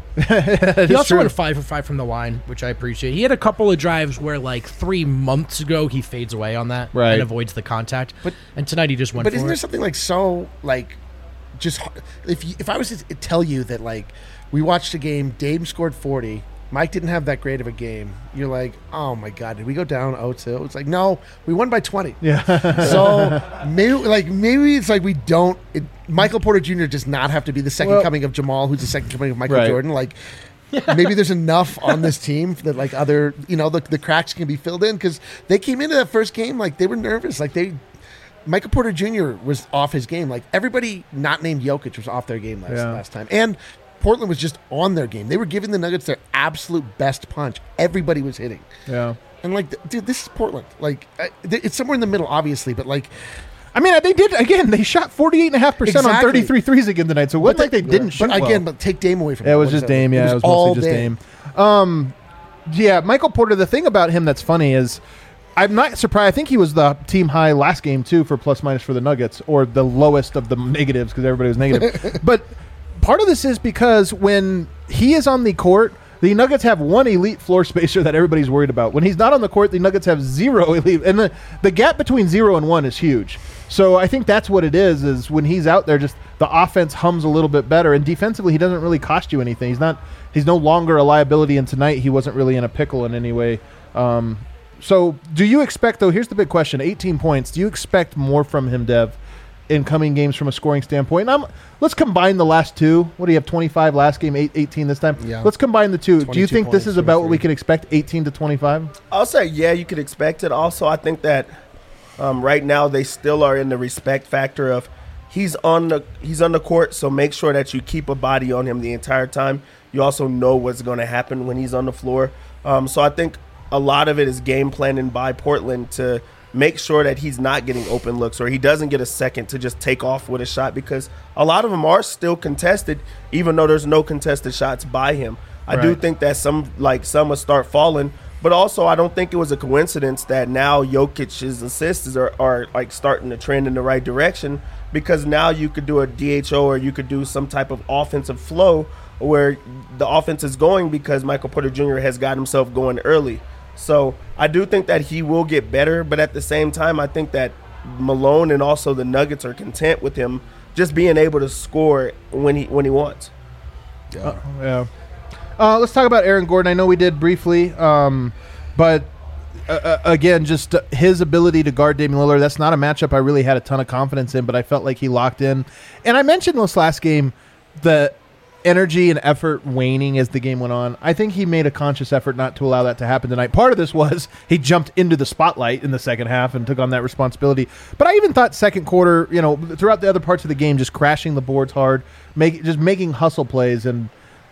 He also went 5 for 5 from the line, which I appreciate. He had a couple of drives where, like, 3 months ago, he fades away on that and avoids the contact. And tonight he just went for it. But isn't there something, like, so, like, just if I was to tell you that, like, we watched a game, Dame scored 40, Mike didn't have that great of a game, you're like, oh my God, did we go down 0-2? It's like, no, we won by 20. Yeah. So maybe it's like we don't. Michael Porter Jr. does not have to be the second coming of Jamal, who's the second coming of Michael Jordan. Like, maybe there's enough on this team that like other, the cracks can be filled in, because they came into that first game like they were nervous, like Michael Porter Jr. was off his game. Like everybody not named Jokic was off their game last time, and Portland was just on their game. They were giving the Nuggets their absolute best punch. Everybody was hitting. Yeah. And, like, dude, this is Portland. Like, it's somewhere in the middle, obviously, but, like... I mean, they did, again, they shot 48.5% on 33 threes again tonight, so it wasn't like they didn't shoot But take Dame away from it. It was just Dame, yeah. It was mostly just Dame. Yeah, Michael Porter, the thing about him that's funny is... I'm not surprised. I think he was the team high last game, too, for plus-minus for the Nuggets, or the lowest of the negatives, because everybody was negative. But... part of this is because when he is on the court, The Nuggets have one elite floor spacer that everybody's worried about. When he's not on the court, the Nuggets have 0 elite. And the gap between 0 and 1 is huge. So I think that's what it is when he's out there, just the offense hums a little bit better. And defensively, he doesn't really cost you anything. He's no longer a liability, and tonight he wasn't really in a pickle in any way. So do you expect, though, here's the big question, 18 points. Do you expect more from him, Dev, in coming games from a scoring standpoint? Let's combine the last two. What do you have, 25 last game, 18 this time? Yeah. Let's combine the two. Do you think points, this is about what we can expect, 18 to 25? I'll say, yeah, you could expect it. Also, I think that right now they still are in the respect factor of he's on the court, so make sure that you keep a body on him the entire time. You also know what's going to happen when he's on the floor. So I think a lot of it is game planning by Portland to make sure that he's not getting open looks or he doesn't get a second to just take off with a shot, because a lot of them are still contested, even though there's no contested shots by him. I do think that some will start falling, but also I don't think it was a coincidence that now Jokic's assists are like starting to trend in the right direction, because now you could do a DHO or you could do some type of offensive flow where the offense is going because Michael Porter Jr. has got himself going early. So I do think that he will get better, but at the same time, I think that Malone and also the Nuggets are content with him just being able to score when he wants. Yeah. Let's talk about Aaron Gordon. I know we did briefly, but again, just his ability to guard Damian Lillard, that's not a matchup I really had a ton of confidence in, but I felt like he locked in. And I mentioned this last game, the energy and effort waning as the game went on. I think he made a conscious effort not to allow that to happen tonight. Part of this was he jumped into the spotlight in the second half and took on that responsibility. But I even thought second quarter, throughout the other parts of the game, just crashing the boards hard, just making hustle plays. And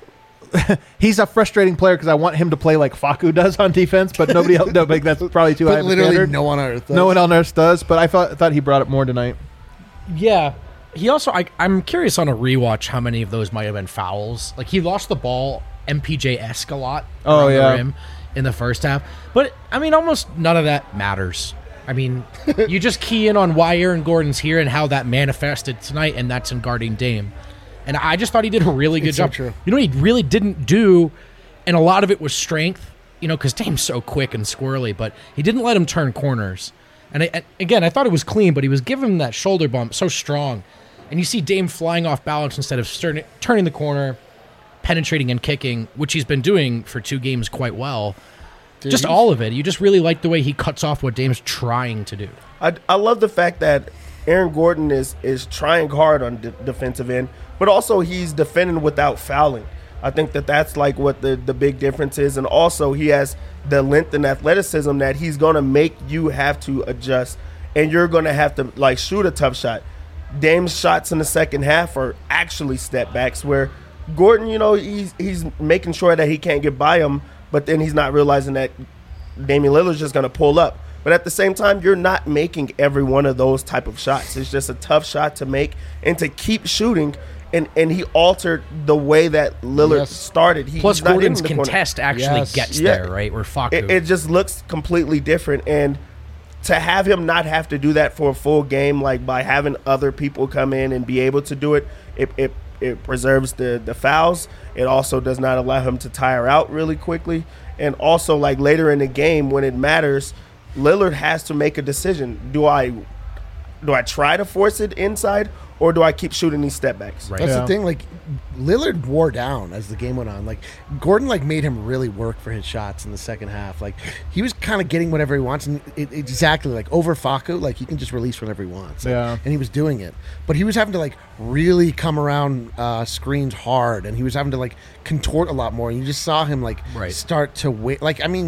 he's a frustrating player because I want him to play like Facu does on defense, but nobody else. No, that's probably too high of a literally standard. no one on earth does. No one on earth does, but I thought he brought it more tonight. Yeah. He also, I'm curious on a rewatch how many of those might have been fouls. Like, he lost the ball MPJ-esque a lot around the rim in the first half. But, I mean, almost none of that matters. I mean, you just key in on why Aaron Gordon's here and how that manifested tonight, and that's in guarding Dame. And I just thought he did a really good job. So true. You know what he really didn't do, and a lot of it was strength, because Dame's so quick and squirrely, but he didn't let him turn corners. And again, I thought it was clean, but he was giving him that shoulder bump so strong. And you see Dame flying off balance instead of turning the corner, penetrating and kicking, which he's been doing for 2 games quite well. Dude, just all of it. You just really like the way he cuts off what Dame's trying to do. I love the fact that Aaron Gordon is trying hard on defensive end, but also he's defending without fouling. I think that's like what the big difference is. And also he has the length and athleticism that he's going to make you have to adjust, and you're going to have to shoot a tough shot. Dame's shots in the second half are actually step backs where Gordon, he's making sure that he can't get by him, but then he's not realizing that Damian Lillard's just going to pull up. But at the same time, you're not making every one of those type of shots. It's just a tough shot to make and to keep shooting. And he altered the way that Lillard started. Plus, Gordon's contest actually gets there, right? Where Facu. It just looks completely different. And to have him not have to do that for a full game, like by having other people come in and be able to do it, it preserves the fouls. It also does not allow him to tire out really quickly. And also, like later in the game when it matters, Lillard has to make a decision. Do I try to force it inside, or do I keep shooting these step backs? Right. That's the thing. Like, Lillard wore down as the game went on. Like, Gordon made him really work for his shots in the second half. Like, he was kind of getting whatever he wants, and exactly over Facu, he can just release whenever he wants. And he was doing it, but he was having to really come around screens hard, and he was having to contort a lot more. And you just saw him start to wait.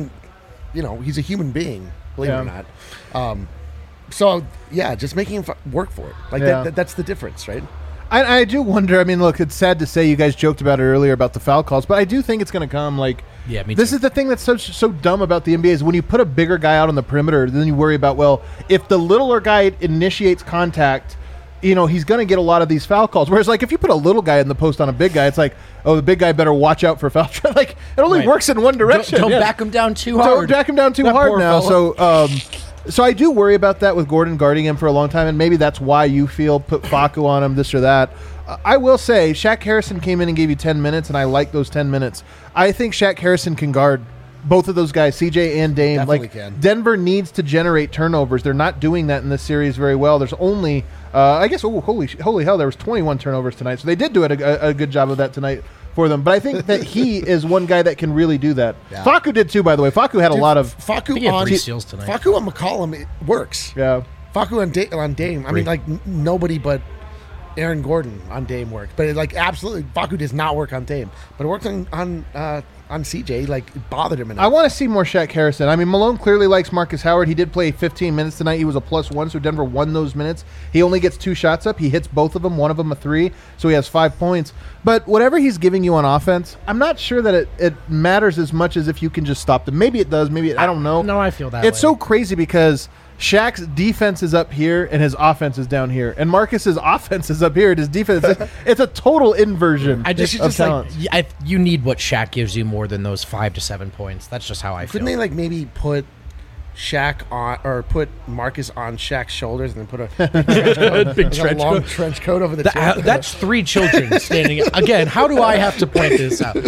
He's a human being, believe it or not. So, just making him work for it. That's the difference, right? I do wonder. I mean, look, it's sad to say you guys joked about it earlier about the foul calls, but I do think it's going to come. Me this too. is the thing that's so dumb about the NBA is when you put a bigger guy out on the perimeter, then you worry about, well, if the littler guy initiates contact, he's going to get a lot of these foul calls. Whereas, if you put a little guy in the post on a big guy, it's the big guy better watch out for foul. It only works in one direction. Don't back him down too hard. Don't back him down too hard now. Fella. So I do worry about that with Gordon guarding him for a long time, and maybe that's why you feel put Facu on him, this or that. I will say, Shaq Harrison came in and gave you 10 minutes, and I like those 10 minutes. I think Shaq Harrison can guard both of those guys, CJ and Dame. Definitely can. Denver needs to generate turnovers. They're not doing that in this series very well. There's only, I guess, holy hell, there was 21 turnovers tonight. So they did do a good job of that tonight for them. But I think that he is one guy that can really do that. Yeah. Facu did too, by the way. Facu had a lot of... Facu on 3 steals tonight. Facu on McCollum, it works. Yeah. Facu on Dame. I mean, like, nobody but Aaron Gordon on Dame works. But, like, absolutely, Facu does not work on Dame. But it works on CJ. Like, it bothered him enough. I want to see more Shaq Harrison. I mean, Malone clearly likes Marcus Howard. He did play 15 minutes tonight. He was a +1, so Denver won those minutes. He only gets 2 shots up. He hits both of them, one of them a 3, so he has 5 points. But whatever he's giving you on offense, I'm not sure that it matters as much as if you can just stop them. Maybe it does. Maybe I don't know. No, I feel that It's way. so crazy because Shaq's defense is up here and his offense is down here, and Marcus's offense is up here and his defense. It's a total inversion. I just of talents. you need what Shaq gives you more than those 5 to 7 points. That's just how I feel. Couldn't they, like, maybe put Shaq on, or put Marcus on Shaq's shoulders and then put a big like a long trench coat over the chin? That's 3 children standing. Again, how do I have to point this out?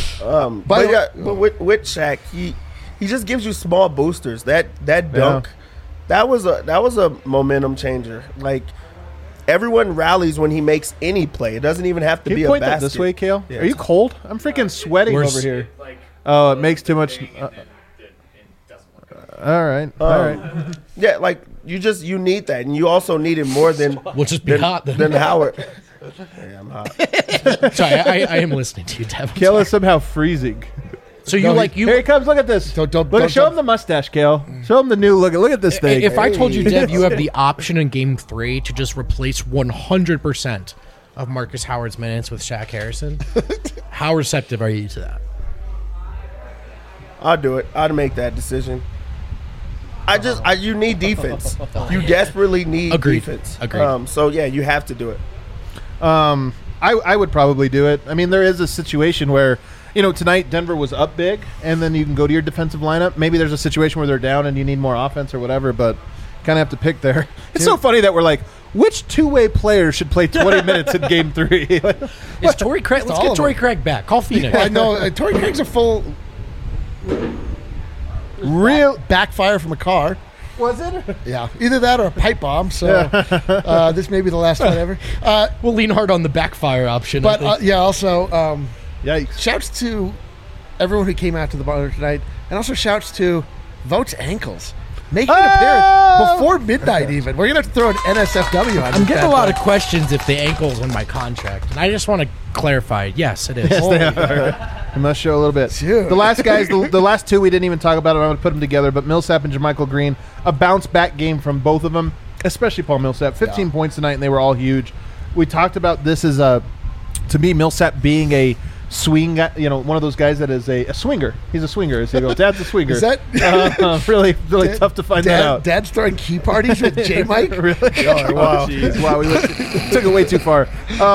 But with Shaq, he just gives you small boosters. That dunk, that was a momentum changer. Like, everyone rallies when he makes any play. It doesn't even have to Can be you a point basket. that this way, Kale? Yeah. Are you cold? I'm freaking sweating over here. Like, Oh, it makes too much. it doesn't work. All right. All right. Yeah, like you need that, and you also need it more than We'll just be hot then. than Howard. Yeah, I'm hot. Sorry, I am listening to you, Devin. Kale is somehow freezing. So Here he comes. Look at this. Show him the mustache, Kale. Show him the new look. Look at this thing. If I told you, Dev, you have the option in Game 3 to just replace 100% of Marcus Howard's minutes with Shaq Harrison, how receptive are you to that? I'll do it. I'd make that decision. You need defense. You desperately need Agreed. defense. Agreed. So yeah, you have to do it. I would probably do it. I mean, there is a situation where, tonight Denver was up big, and then you can go to your defensive lineup. Maybe there's a situation where they're down and you need more offense or whatever, but kind of have to pick there. It's so funny that we're like, which two-way player should play 20 minutes in Game 3? Is Torrey Craig? Let's get Torrey Craig back. Call Phoenix. I know. Torrey Craig's a full Real backfire from a car. Was it? Yeah, either that or a pipe bomb. So this may be the last one ever. We'll lean hard on the backfire option. But also, Yikes. shouts to everyone who came out to the bar tonight, and also shouts to Votes Ankles. Making an appearance before midnight even. We're going to have to throw an NSFW on I'm getting a lot of questions if the ankle's in my contract. And I just want to clarify. Yes, it is. Yes, they are. It must show a little bit. Dude. The last guys, the last two we didn't even talk about it. I'm going to put them together. But Millsap and JaMychal Green, a bounce back game from both of them, especially Paul Millsap. 15 points tonight, and they were all huge. We talked about this as to me, Millsap being a swing guy, one of those guys that is a swinger. He's a swinger. As you go, Dad's a swinger. Is that really tough to find that out? Dad's throwing key parties with J Mike? Really? Oh, wow. Jeez. Wow, we took it way too far.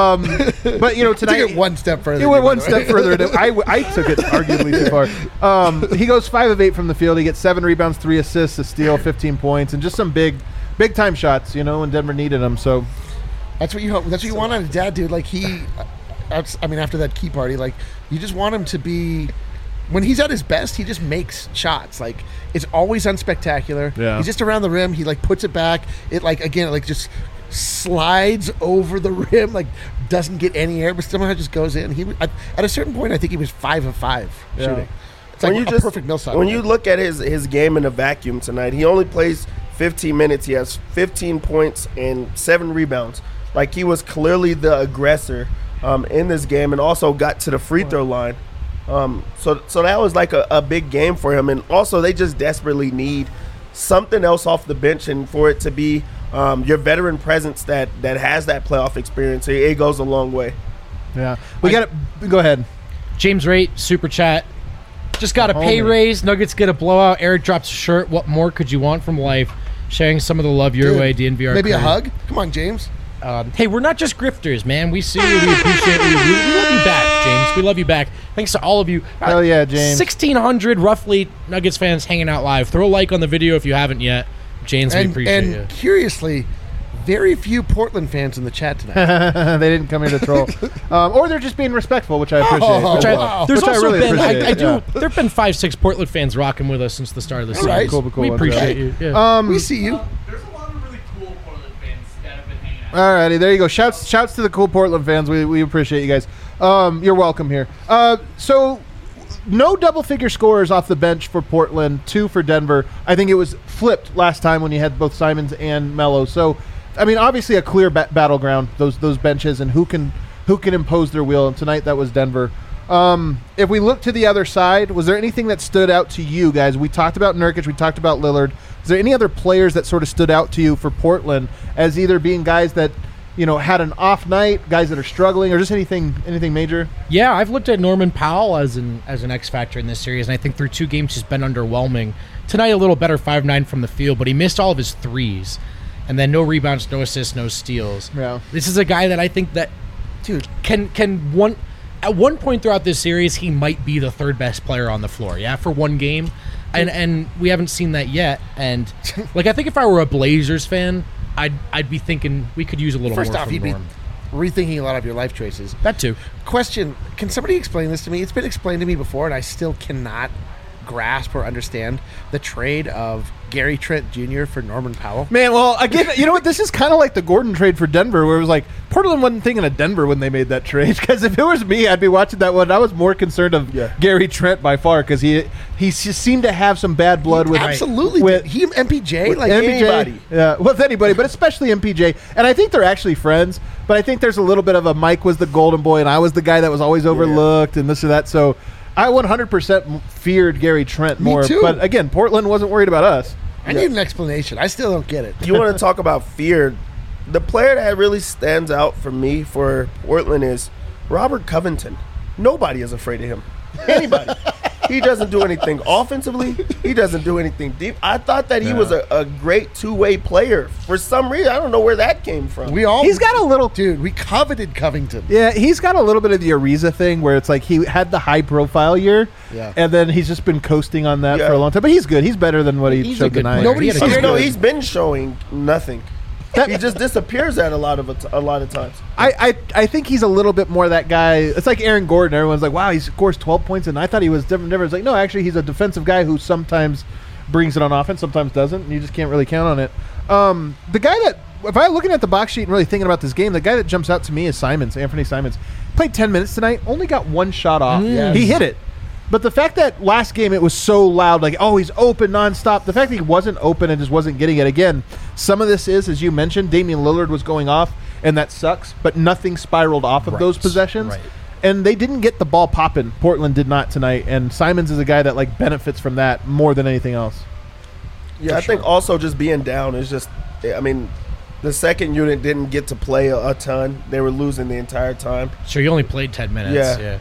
But tonight Took it one step further. He went one step further. I took it arguably too far. He goes 5 of 8 from the field. He gets 7 rebounds, 3 assists, a steal, 15 points, and just some big time shots. When Denver needed them. So that's what you hope. That's what you want out of Dad, dude. Like after that key party, like you just want him to be. When he's at his best, he just makes shots. Like it's always unspectacular. Yeah. He's just around the rim. He puts it back. It just slides over the rim. Like doesn't get any air, but somehow just goes in. At a certain point, I think he was 5 of 5 shooting. It's like a perfect Millsap. When you look at his game in a vacuum tonight, he only plays 15 minutes. He has 15 points and 7 rebounds. Like he was clearly the aggressor in this game, and also got to the free throw line. So that was like a big game for him. And also they just desperately need something else off the bench, and for it to be your veteran presence that has that playoff experience, it goes a long way. Yeah, we got to go ahead. James Rate, super chat. Just got a pay raise. Nuggets get a blowout. Eric drops a shirt. What more could you want from life? Sharing some of the love your way, DNVR. Maybe crew. a hug? Come on, James. Hey, we're not just grifters, man. We see you. We appreciate you. We love you back, James. We love you back. Thanks to all of you. Hell yeah, James. 1,600 roughly Nuggets fans hanging out live. Throw a like on the video if you haven't yet. James, we appreciate you. And curiously, very few Portland fans in the chat tonight. They didn't come here to troll, or they're just being respectful, which I appreciate. Wow. There's Which I also really been, appreciate, there have been 5-6 Portland fans rocking with us since the start of the season. right. Cool, We ones, appreciate yeah. you. Yeah. We see you. There's a lot of really cool Portland fans that have been hanging out. Alrighty, there you go. Shouts to the cool Portland fans. We appreciate you guys. You're welcome here. So no double-figure scorers off the bench for Portland, 2 for Denver. I think it was flipped last time when you had both Simons and Melo. So, I mean, obviously a clear battleground, those benches, and who can impose their will. And tonight that was Denver. If we look to the other side, was there anything that stood out to you guys? We talked about Nurkic, we talked about Lillard. Is there any other players that sort of stood out to you for Portland as either being guys that had an off night, guys that are struggling, or just anything major? Yeah, I've looked at Norman Powell as an X factor in this series, and I think through 2 games he's been underwhelming. Tonight a little better, 5-9 from the field, but he missed all of his threes, and then no rebounds, no assists, no steals. Yeah, this is a guy that I think that, dude, at one point throughout this series he might be the 3rd best player on the floor. Yeah, for one game, and we haven't seen that yet. And like I think if I were a Blazers fan, I'd be thinking we could use a little First more off, from you'd be Norm. rethinking a lot of your life choices. That too. Question, can somebody explain this to me? It's been explained to me before, and I still cannot grasp or understand the trade of Gary Trent Jr. for Norman Powell. Man, well, again, you know what? This is kind of like the Gordon trade for Denver, where it was like Portland wasn't thinking of Denver when they made that trade. Because if it was me, I'd be watching that one. I was more concerned of Gary Trent by far because he just seemed to have some bad blood with absolutely with he MPJ with like MPJ, anybody. Yeah, with anybody, but especially MPJ. And I think they're actually friends. But I think there's a little bit of a Mike was the golden boy, and I was the guy that was always overlooked, and this or that. So I 100% feared Gary Trent more. Me too. But again, Portland wasn't worried about us. I need an explanation. I still don't get it. You want to talk about fear? The player that really stands out for me for Portland is Robert Covington. Nobody is afraid of him. Anybody. He doesn't do anything offensively. He doesn't do anything deep. I thought that he was a great two-way player. For some reason, I don't know where that came from. He's got a little... Dude, we coveted Covington. Yeah, he's got a little bit of the Ariza thing where it's like he had the high-profile year, and then he's just been coasting on that for a long time. But he's good. He's better than what he showed tonight. He's been showing nothing. He just disappears at a lot of times. I think he's a little bit more that guy. It's like Aaron Gordon. Everyone's like, wow, he scores 12 points, and I thought he was different. It's like, no, actually, he's a defensive guy who sometimes brings it on offense, sometimes doesn't, and you just can't really count on it. The guy that, if I'm looking at the box sheet and really thinking about this game, the guy that jumps out to me is Anthony Simons. Played 10 minutes tonight, only got 1 shot off. He hit it. But the fact that last game it was so loud, like, oh, he's open nonstop. The fact that he wasn't open and just wasn't getting it again. Some of this is, as you mentioned, Damian Lillard was going off, and that sucks. But nothing spiraled off of those possessions. Right. And they didn't get the ball popping. Portland did not tonight. And Simons is a guy that like benefits from that more than anything else. Yeah, I think also just being down is just, I mean, the second unit didn't get to play a ton. They were losing the entire time. So you only played 10 minutes. Yeah.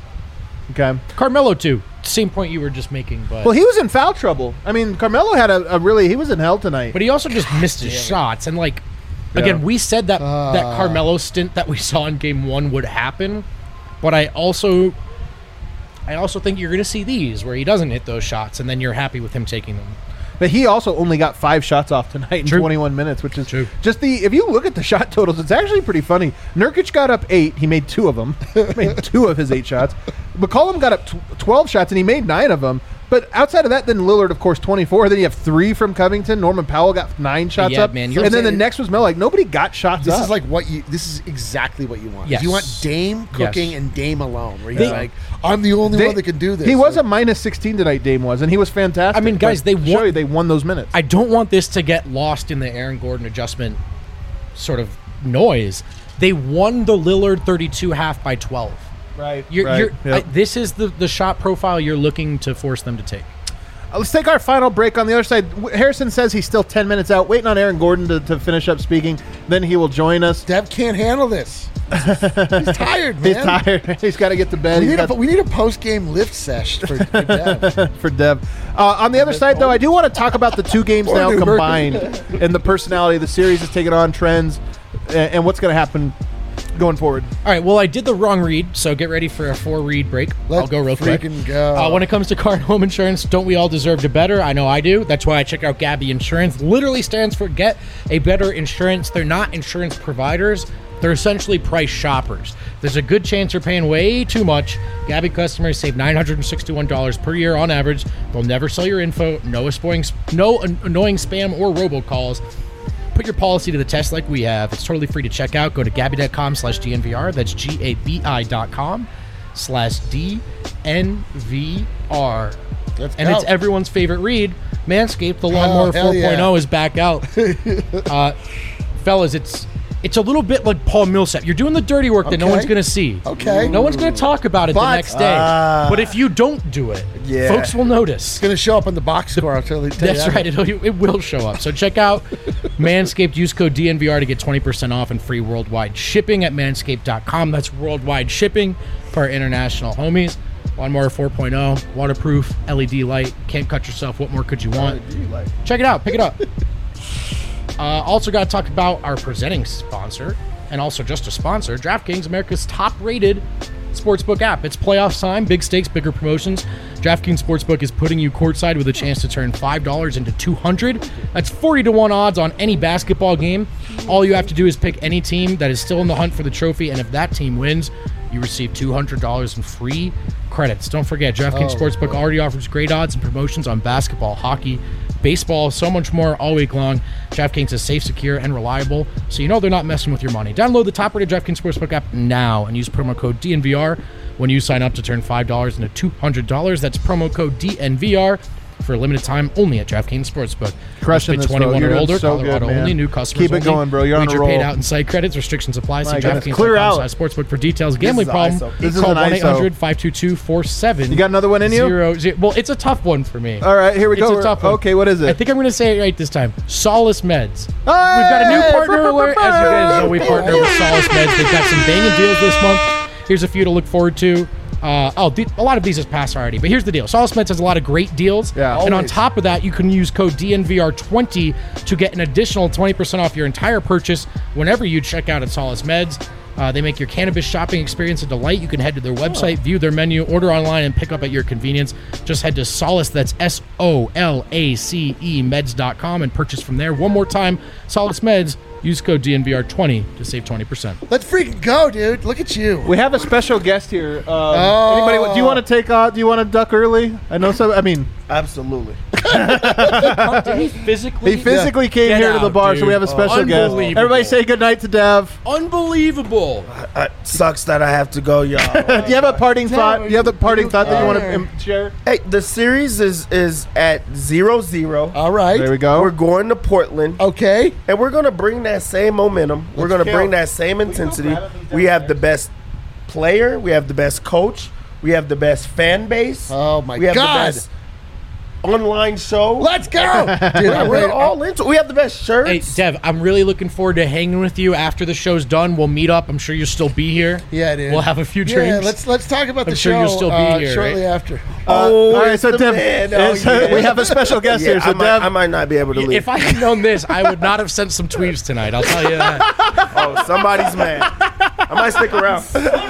Okay. Carmelo too. Same point you were just making, but well, he was in foul trouble. I mean, Carmelo had he was in hell tonight. But he also just missed his shots, and like again, we said that that Carmelo stint that we saw in Game 1 would happen, but I also think you're going to see these where he doesn't hit those shots, and then you're happy with him taking them. But he also only got 5 shots off tonight in 21 minutes, which is just if you look at the shot totals, it's actually pretty funny. Nurkic got up 8. He made 2 of them. Made 2 of his 8 shots. McCollum got up 12 shots, and he made 9 of them. But outside of that, then Lillard, of course, 24. Then you have 3 from Covington. Norman Powell got 9 shots up. Man, and then the next was Mel. Like, nobody got shots this up. Is like this is exactly what you want. Yes. You want Dame cooking and Dame alone. Where he's like, I'm the only one that can do this. He was a minus 16 tonight, Dame was, and he was fantastic. I mean, guys, they won those minutes. I don't want this to get lost in the Aaron Gordon adjustment sort of noise. They won the Lillard 32 half by 12. Right. This is the shot profile you're looking to force them to take. Let's take our final break on the other side. Harrison says he's still 10 minutes out, waiting on Aaron Gordon to finish up speaking. Then he will join us. Dev can't handle this. He's tired, man. He's tired. He's got to get to bed. We need a post-game lift sesh for Dev. For Dev. On the other side, though, I do want to talk about the 2 games now combined and the personality. The series is taking on trends and what's going to happen going forward? All right, well, I did the wrong read, so get ready for a 4-read break. I'll go real quick. Go. When it comes to car and home insurance, don't we all deserve to better? I know I do. That's why I check out Gabby Insurance. Literally stands for Get a Better Insurance. They're not insurance providers. They're essentially price shoppers. There's a good chance you're paying way too much. Gabby customers save $961 per year on average. They'll never sell your info. No annoying spam or robocalls. Put your policy to the test like we have. It's totally free to check out. Go to Gabby.com/DNVR. That's GABI.com/DNVR. And it's everyone's favorite read. Manscaped, the Lawnmower 4.0 is back out. Fellas, it's a little bit like Paul Millsap. You're doing the dirty work that no one's going to see. Okay. No one's going to talk about it the next day. But if you don't do it, folks will notice. It's going to show up on the box score. I'll tell you That's that. right. It will show up. So check out Manscaped. Use code DNVR to get 20% off and free worldwide shipping at manscaped.com. That's worldwide shipping for our international homies. Lawnmower 4.0, waterproof, LED light. Can't cut yourself. What more could you want? Check it out. Pick it up. Also got to talk about our presenting sponsor, and also just a sponsor, DraftKings, America's top-rated sportsbook app. It's playoff time, big stakes, bigger promotions. DraftKings Sportsbook is putting you courtside with a chance to turn $5 into $200. That's 40-1 odds on any basketball game. All you have to do is pick any team that is still in the hunt for the trophy, and if that team wins, you receive $200 in free credits. Don't forget, DraftKings Sportsbook already offers great odds and promotions on basketball, hockey, baseball, so much more all week long. DraftKings is safe, secure, and reliable, so you know they're not messing with your money. Download the top-rated DraftKings Sportsbook app now and use promo code DNVR when you sign up to turn $5 into $200. That's promo code DNVR for a limited time only at DraftKings Sportsbook. Crushing this, 21 bro. or older, so Colorado good, only, new customers Keep it only. going, bro. You're on a Wager roll. paid out and site credits. Restrictions apply. See goodness. Clear out. DraftKings.com/sportsbook for details. Gambling is problem? ISO. This is Call an ISO. 1-800-522-4700. You got another one in you? Well, it's a tough one for me. All right, here we go. It's a tough one. Okay, what is it? I think I'm going to say it right this time. Solace Meds. We've got a new partner alert. As you guys know, we partner with Solace Meds. They've got some banging deals this month. Here's a few to look forward to. A lot of these has passed already, but here's the deal. Solace Meds has a lot of great deals. Yeah, and on top of that, you can use code DNVR20 to get an additional 20% off your entire purchase whenever you check out at Solace Meds. They make your cannabis shopping experience a delight. You can head to their website, view their menu, order online, and pick up at your convenience. Just head to Solace, that's SOLACE meds.com, and purchase from there. One more time, Solace Meds. Use code DNVR20 to save 20%. Let's freaking go, dude. Look at you. We have a special guest here. Anybody? Do you want to take off? Do you want to duck early? I know some. I mean, Absolutely. Did he physically? he physically came Get here to the out, bar, so dude. we have a special guest. Unbelievable. Everybody say goodnight to Dev. Unbelievable. Sucks that I have to go, y'all. Do you have a parting thought? Do you have a parting thought that you want to share? Hey, the series is at 0-0. All right. There we go. We're going to Portland. Okay. And we're going to bring that same momentum. We're going to bring that same intensity. We have the best player. We have the best coach. We have the best fan base. Oh, my we have God. the best online show. Let's go. Dude, I'm We're ready. all into it. We have the best shirts. Hey, Dev, I'm really looking forward to hanging with you after the show's done. We'll meet up. I'm sure you'll still be here. Yeah, dude. We'll have a few Yeah, drinks. let's talk about I'm the sure show you'll still be here, shortly right? after. Oh, all right, it's so the Dev, man. Oh, yeah. we have a special guest here. So Dev, I might not be able to leave. If I had known this, I would not have sent some tweets tonight. I'll tell you that. Oh, somebody's mad. I might stick around.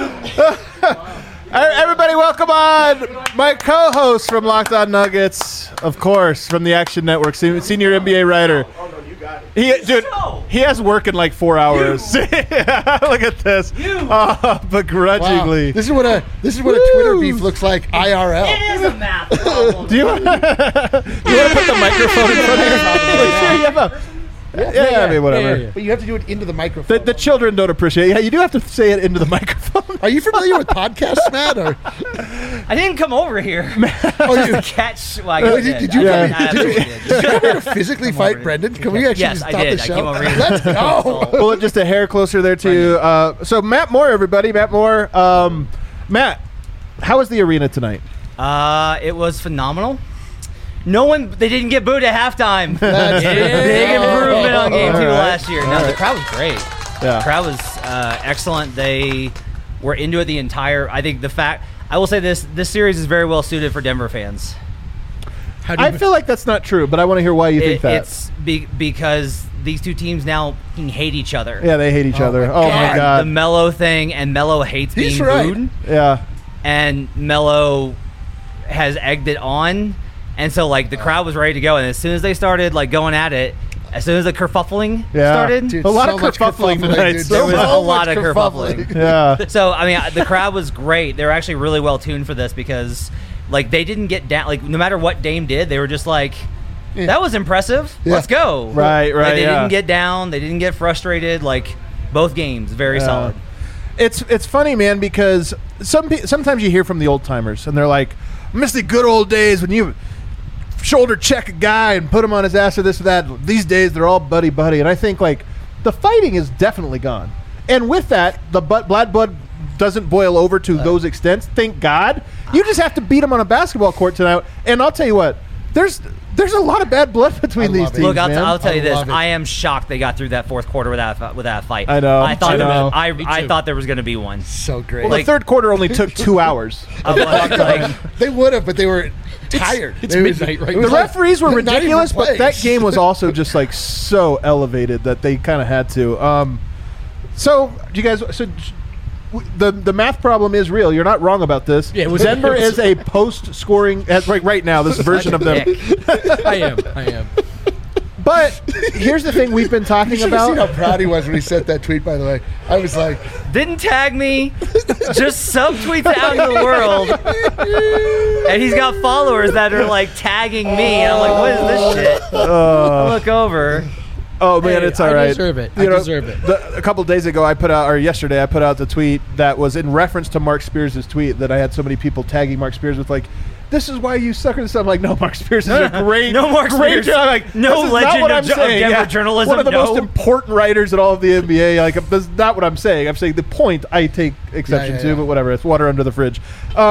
everybody, welcome on my co-host from Locked On Nuggets, of course, from the Action Network, senior NBA writer. Oh, no, you got it. He has work in like 4 hours. Look at this. Begrudgingly. Wow. This is what a Twitter beef looks like IRL. It is a math problem. Do you want to put the microphone in front of you? Yeah, I mean, whatever. Yeah. But you have to do it into the microphone. The children don't appreciate it. Yeah, you do have to say it into the microphone. Are you familiar with podcasts, Matt? Or I didn't come over here to catch. Well, I Wait, guess did I you did. come- I did you- absolutely did you come here to physically fight over. Brendan? Can we actually Yes, just I stop did. the I show? came over here. Let's go. Pull it just a hair closer there to so Matt Moore, everybody. Matt Moore. Matt, how was the arena tonight? It was phenomenal. They didn't get booed at halftime. That's Big improvement on game 2 All right. last year. No, the crowd was great. Yeah. The crowd was excellent. They were into it the entire. I think I will say this series is very well suited for Denver fans. How do you I feel like that's not true, but I want to hear why you think that. It's because these two teams now hate each other. Yeah, they hate each other. my Oh my god. The Melo thing, and Melo hates He's being right. booed, Yeah. and Melo has egged it on, and so like the crowd was ready to go, and as soon as they started like going at it, as soon as the kerfuffling Yeah. started, Dude, A lot of much kerfuffling tonight. dude. There was a So lot much of kerfuffling. Yeah. so I mean the crowd was great. They were actually really well tuned for this because like they didn't get down. Like no matter what Dame did, they were just like, that was impressive. Yeah. Let's go. Right, Like, they yeah. didn't get down. They didn't get frustrated. Like both games, very solid. It's funny, man, because sometimes you hear from the old timers and they're like, "Miss the good old days when you shoulder check a guy and put him on his ass or this or that." These days they're all buddy buddy, and I think like the fighting is definitely gone. And with that, the blood doesn't boil over to those extents. Thank God. You just have to beat them on a basketball court tonight. And I'll tell you what, there's a lot of bad blood between I these love it. teams. Look, man. I'll tell you I this. love it. I am shocked they got through that fourth quarter without a fight. I know. I thought I know. I thought there was going to be one. So great. Well, like- the third quarter only took 2 hours. They would have, but they were tired. it's It was- midnight right it now. was The like- referees were not even ridiculous, but that plays. game was also just like so elevated that they kind of had to. So you guys, the math problem is real. You're not wrong about this. Yeah, it was- Denver it was- is a post-scoring right now. This version of them. I am. But here's the thing we've been talking You should have seen how about. proud he was when he sent that tweet, by the way. I was like, Didn't tag me, just subtweets out in the world, and he's got followers that are like tagging me, and I'm like, what is this shit? I look over. Oh man, Hey, it's all I right. deserve it. You I know, deserve it. A couple days ago, yesterday, I put out the tweet that was in reference to Mark Spears' tweet that I had so many people tagging Mark Spears with like, "This is why you suckers." I'm like, no, Mark Spears is a great, No Mark great Spears. job. Like, No this is legend not what of I'm Denver saying. journalism, One of the no. most important writers in all of the NBA. Like, that's not what I'm saying. I'm saying the point I take exception Yeah, to, yeah. but whatever. It's water under the fridge.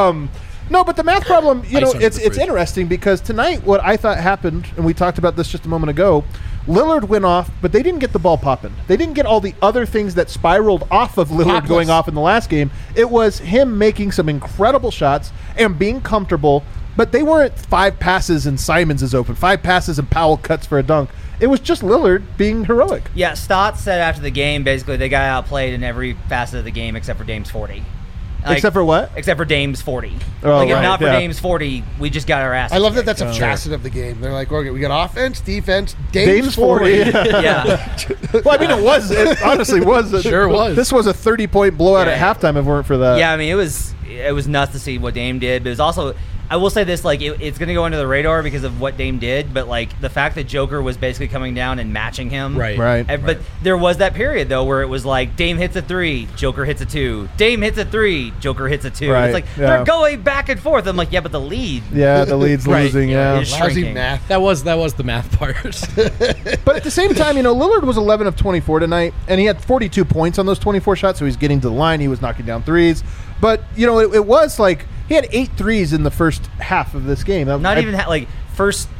No, but the math problem, Ice know, under it's the fridge. interesting because tonight what I thought happened, and we talked about this just a moment ago, Lillard went off, but they didn't get the ball popping. They didn't get all the other things that spiraled off of Lillard Topless. going off in the last game. It was him making some incredible shots and being comfortable, but they weren't 5 passes and Simons is open, 5 passes and Powell cuts for a dunk. It was just Lillard being heroic. Yeah, Stotts said after the game, basically they got outplayed in every facet of the game except for Dame's 40. Like, Except for what? Except for Dame's 40. Oh, like, if right, not for yeah. Dame's 40, we just got our ass. I love that kicked. that's a facet of the game. They're like, okay, we got offense, defense, Dame's Dame's 40. 40. Yeah. Well, I mean, it honestly was. Sure was. This was a 30-point blowout Yeah. at halftime if it weren't for that. Yeah, I mean, it was nuts to see what Dame did, but it was also, I will say this, like, it's going to go under the radar because of what Dame did, but, like, the fact that Joker was basically coming down and matching him. Right. But there was that period, though, where it was like, Dame hits a 3, Joker hits a 2. Dame hits a 3, Joker hits a 2. Right, It's like, yeah. they're going back and forth. I'm like, yeah, but the lead. Yeah, the lead's Right. losing, Yeah, yeah. it is Lousy shrinking. math. That was the math part. But at the same time, Lillard was 11 of 24 tonight, and he had 42 points on those 24 shots, so he's getting to the line. He was knocking down threes. But, it was like he had 8 threes in the first half of this game. Not even, first,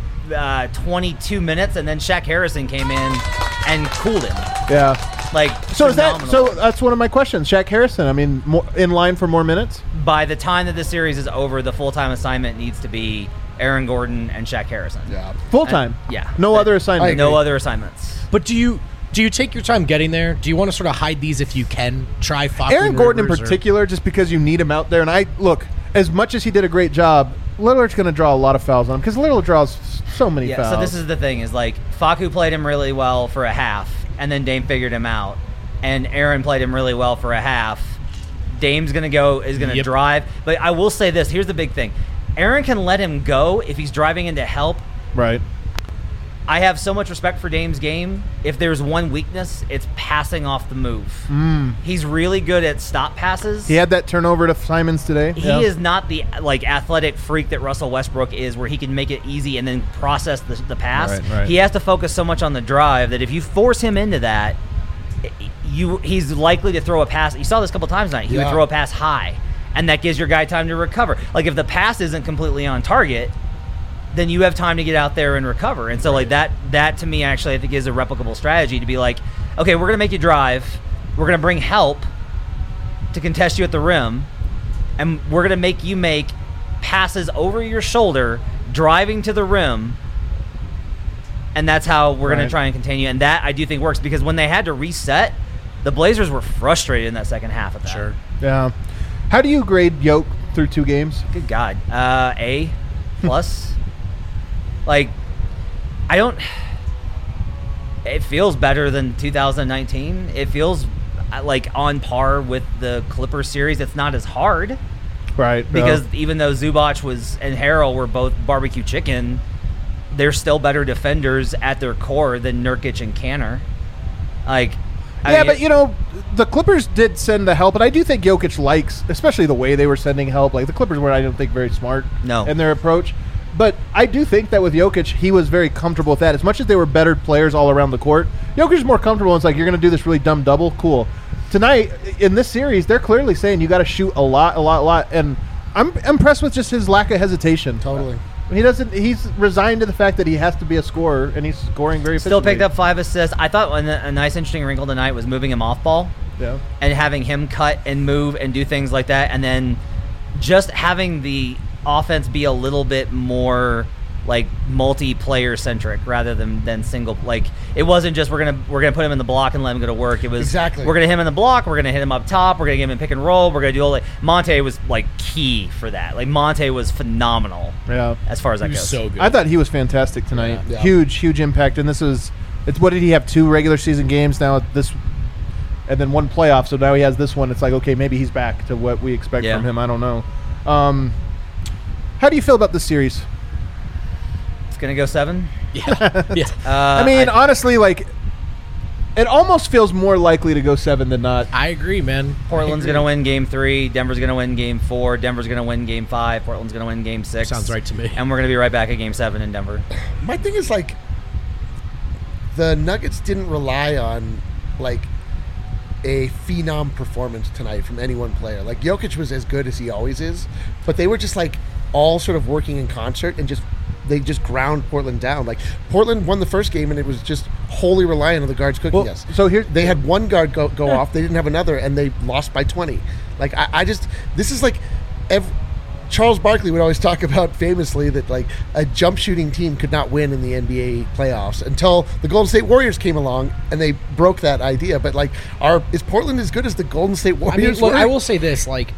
22 minutes, and then Shaq Harrison came in and cooled him. Yeah. Like, So is that? phenomenal. So that's one of my questions. Shaq Harrison. I mean, more, in line for more minutes. By the time that the series is over, the full-time assignment needs to be Aaron Gordon and Shaq Harrison. Yeah. Full time. Yeah. No But- other assignment. No other assignments. But do you take your time getting there? Do you want to sort of hide these if you can? Try Falcon Aaron Gordon in Rivers or- particular, just because you need him out there. And I look, as much as he did a great job, Lillard's going to draw a lot of fouls on him because Lillard draws so many Yeah, fouls. so this is the thing, is like Facu played him really well for a half, and then Dame figured him out. And Aaron played him really well for a half. Dame's gonna Yep. drive. But I will say this, here's the big thing. Aaron can let him go if he's driving in to help. right. I have so much respect for Dame's game. If there's one weakness, it's passing off the move. He's really good at stop passes. He had that turnover to Simons today. He is not the athletic freak that Russell Westbrook is, where he can make it easy and then process the pass. Right. He has to focus so much on the drive that if you force him into that, he's likely to throw a pass. You saw this a couple times tonight. He would Yeah. throw a pass high, and that gives your guy time to recover. Like, if the pass isn't completely on target, then you have time to get out there and recover. And so, like, that to me, actually, I think is a replicable strategy to be like, okay, we're going to make you drive. We're going to bring help to contest you at the rim, and we're going to make you make passes over your shoulder, driving to the rim, And that's how we're going to try and continue. And that I do think works because when they had to reset, the Blazers were frustrated in that second half of that. Sure. Yeah. How do you grade Yoke through 2 games? Good God. A plus. Like, I don't. It feels better than 2019. It feels like on par with the Clippers series. It's not as hard. Right. Because even though Zubac and Harrell were both barbecue chicken, they're still better defenders at their core than Nurkic and Kanter. Like, yeah, but the Clippers did send the help, and I do think Jokic likes, especially the way they were sending help. Like the Clippers were, I don't think, very smart in their approach. But I do think that with Jokic, he was very comfortable with that. As much as they were better players all around the court, Jokic is more comfortable. It's like, you're going to do this really dumb double? Cool. Tonight, in this series, they're clearly saying you got to shoot a lot. And I'm impressed with just his lack of hesitation. Totally. He's resigned to the fact that he has to be a scorer, and he's scoring very efficiently. Still picked up 5 assists. I thought a nice, interesting wrinkle tonight was moving him off ball. Yeah. And having him cut and move and do things like that. And then just having the offense be a little bit more like multiplayer centric rather than single. Like, it wasn't just we're gonna put him in the block and let him go to work. It was we're gonna hit him in the block, we're gonna hit him up top, we're gonna give him pick and roll, we're gonna do all that. Monte was like key for that. Like, Monte was phenomenal. Yeah. As far as that goes. So good. I thought he was fantastic tonight. Yeah. Huge impact. And what did he have? 2 regular season games now, and then 1 playoff. So now he has this one. It's like, okay, maybe he's back to what we expect from him. I don't know. How do you feel about this series? It's gonna go 7. Yeah. I mean, honestly, like, it almost feels more likely to go 7 than not. I agree, man. Portland's going to win Game 3. Denver's going to win Game 4. Denver's going to win Game 5. Portland's going to win Game 6. Sounds right to me. And we're going to be right back at Game 7 in Denver. My thing is, like, the Nuggets didn't rely on, like, a phenom performance tonight from any one player. Like, Jokic was as good as he always is, but they were just, like, all sort of working in concert and they just ground Portland down. Like, Portland won the first game, and it was just wholly reliant on the guards cooking us. So here they had one guard go off, they didn't have another, and they lost by 20. Like, I just, this is like, Charles Barkley would always talk about famously that, like, a jump shooting team could not win in the NBA playoffs until the Golden State Warriors came along and they broke that idea. But, like, is Portland as good as the Golden State Warriors? I mean, look, I will say this, like,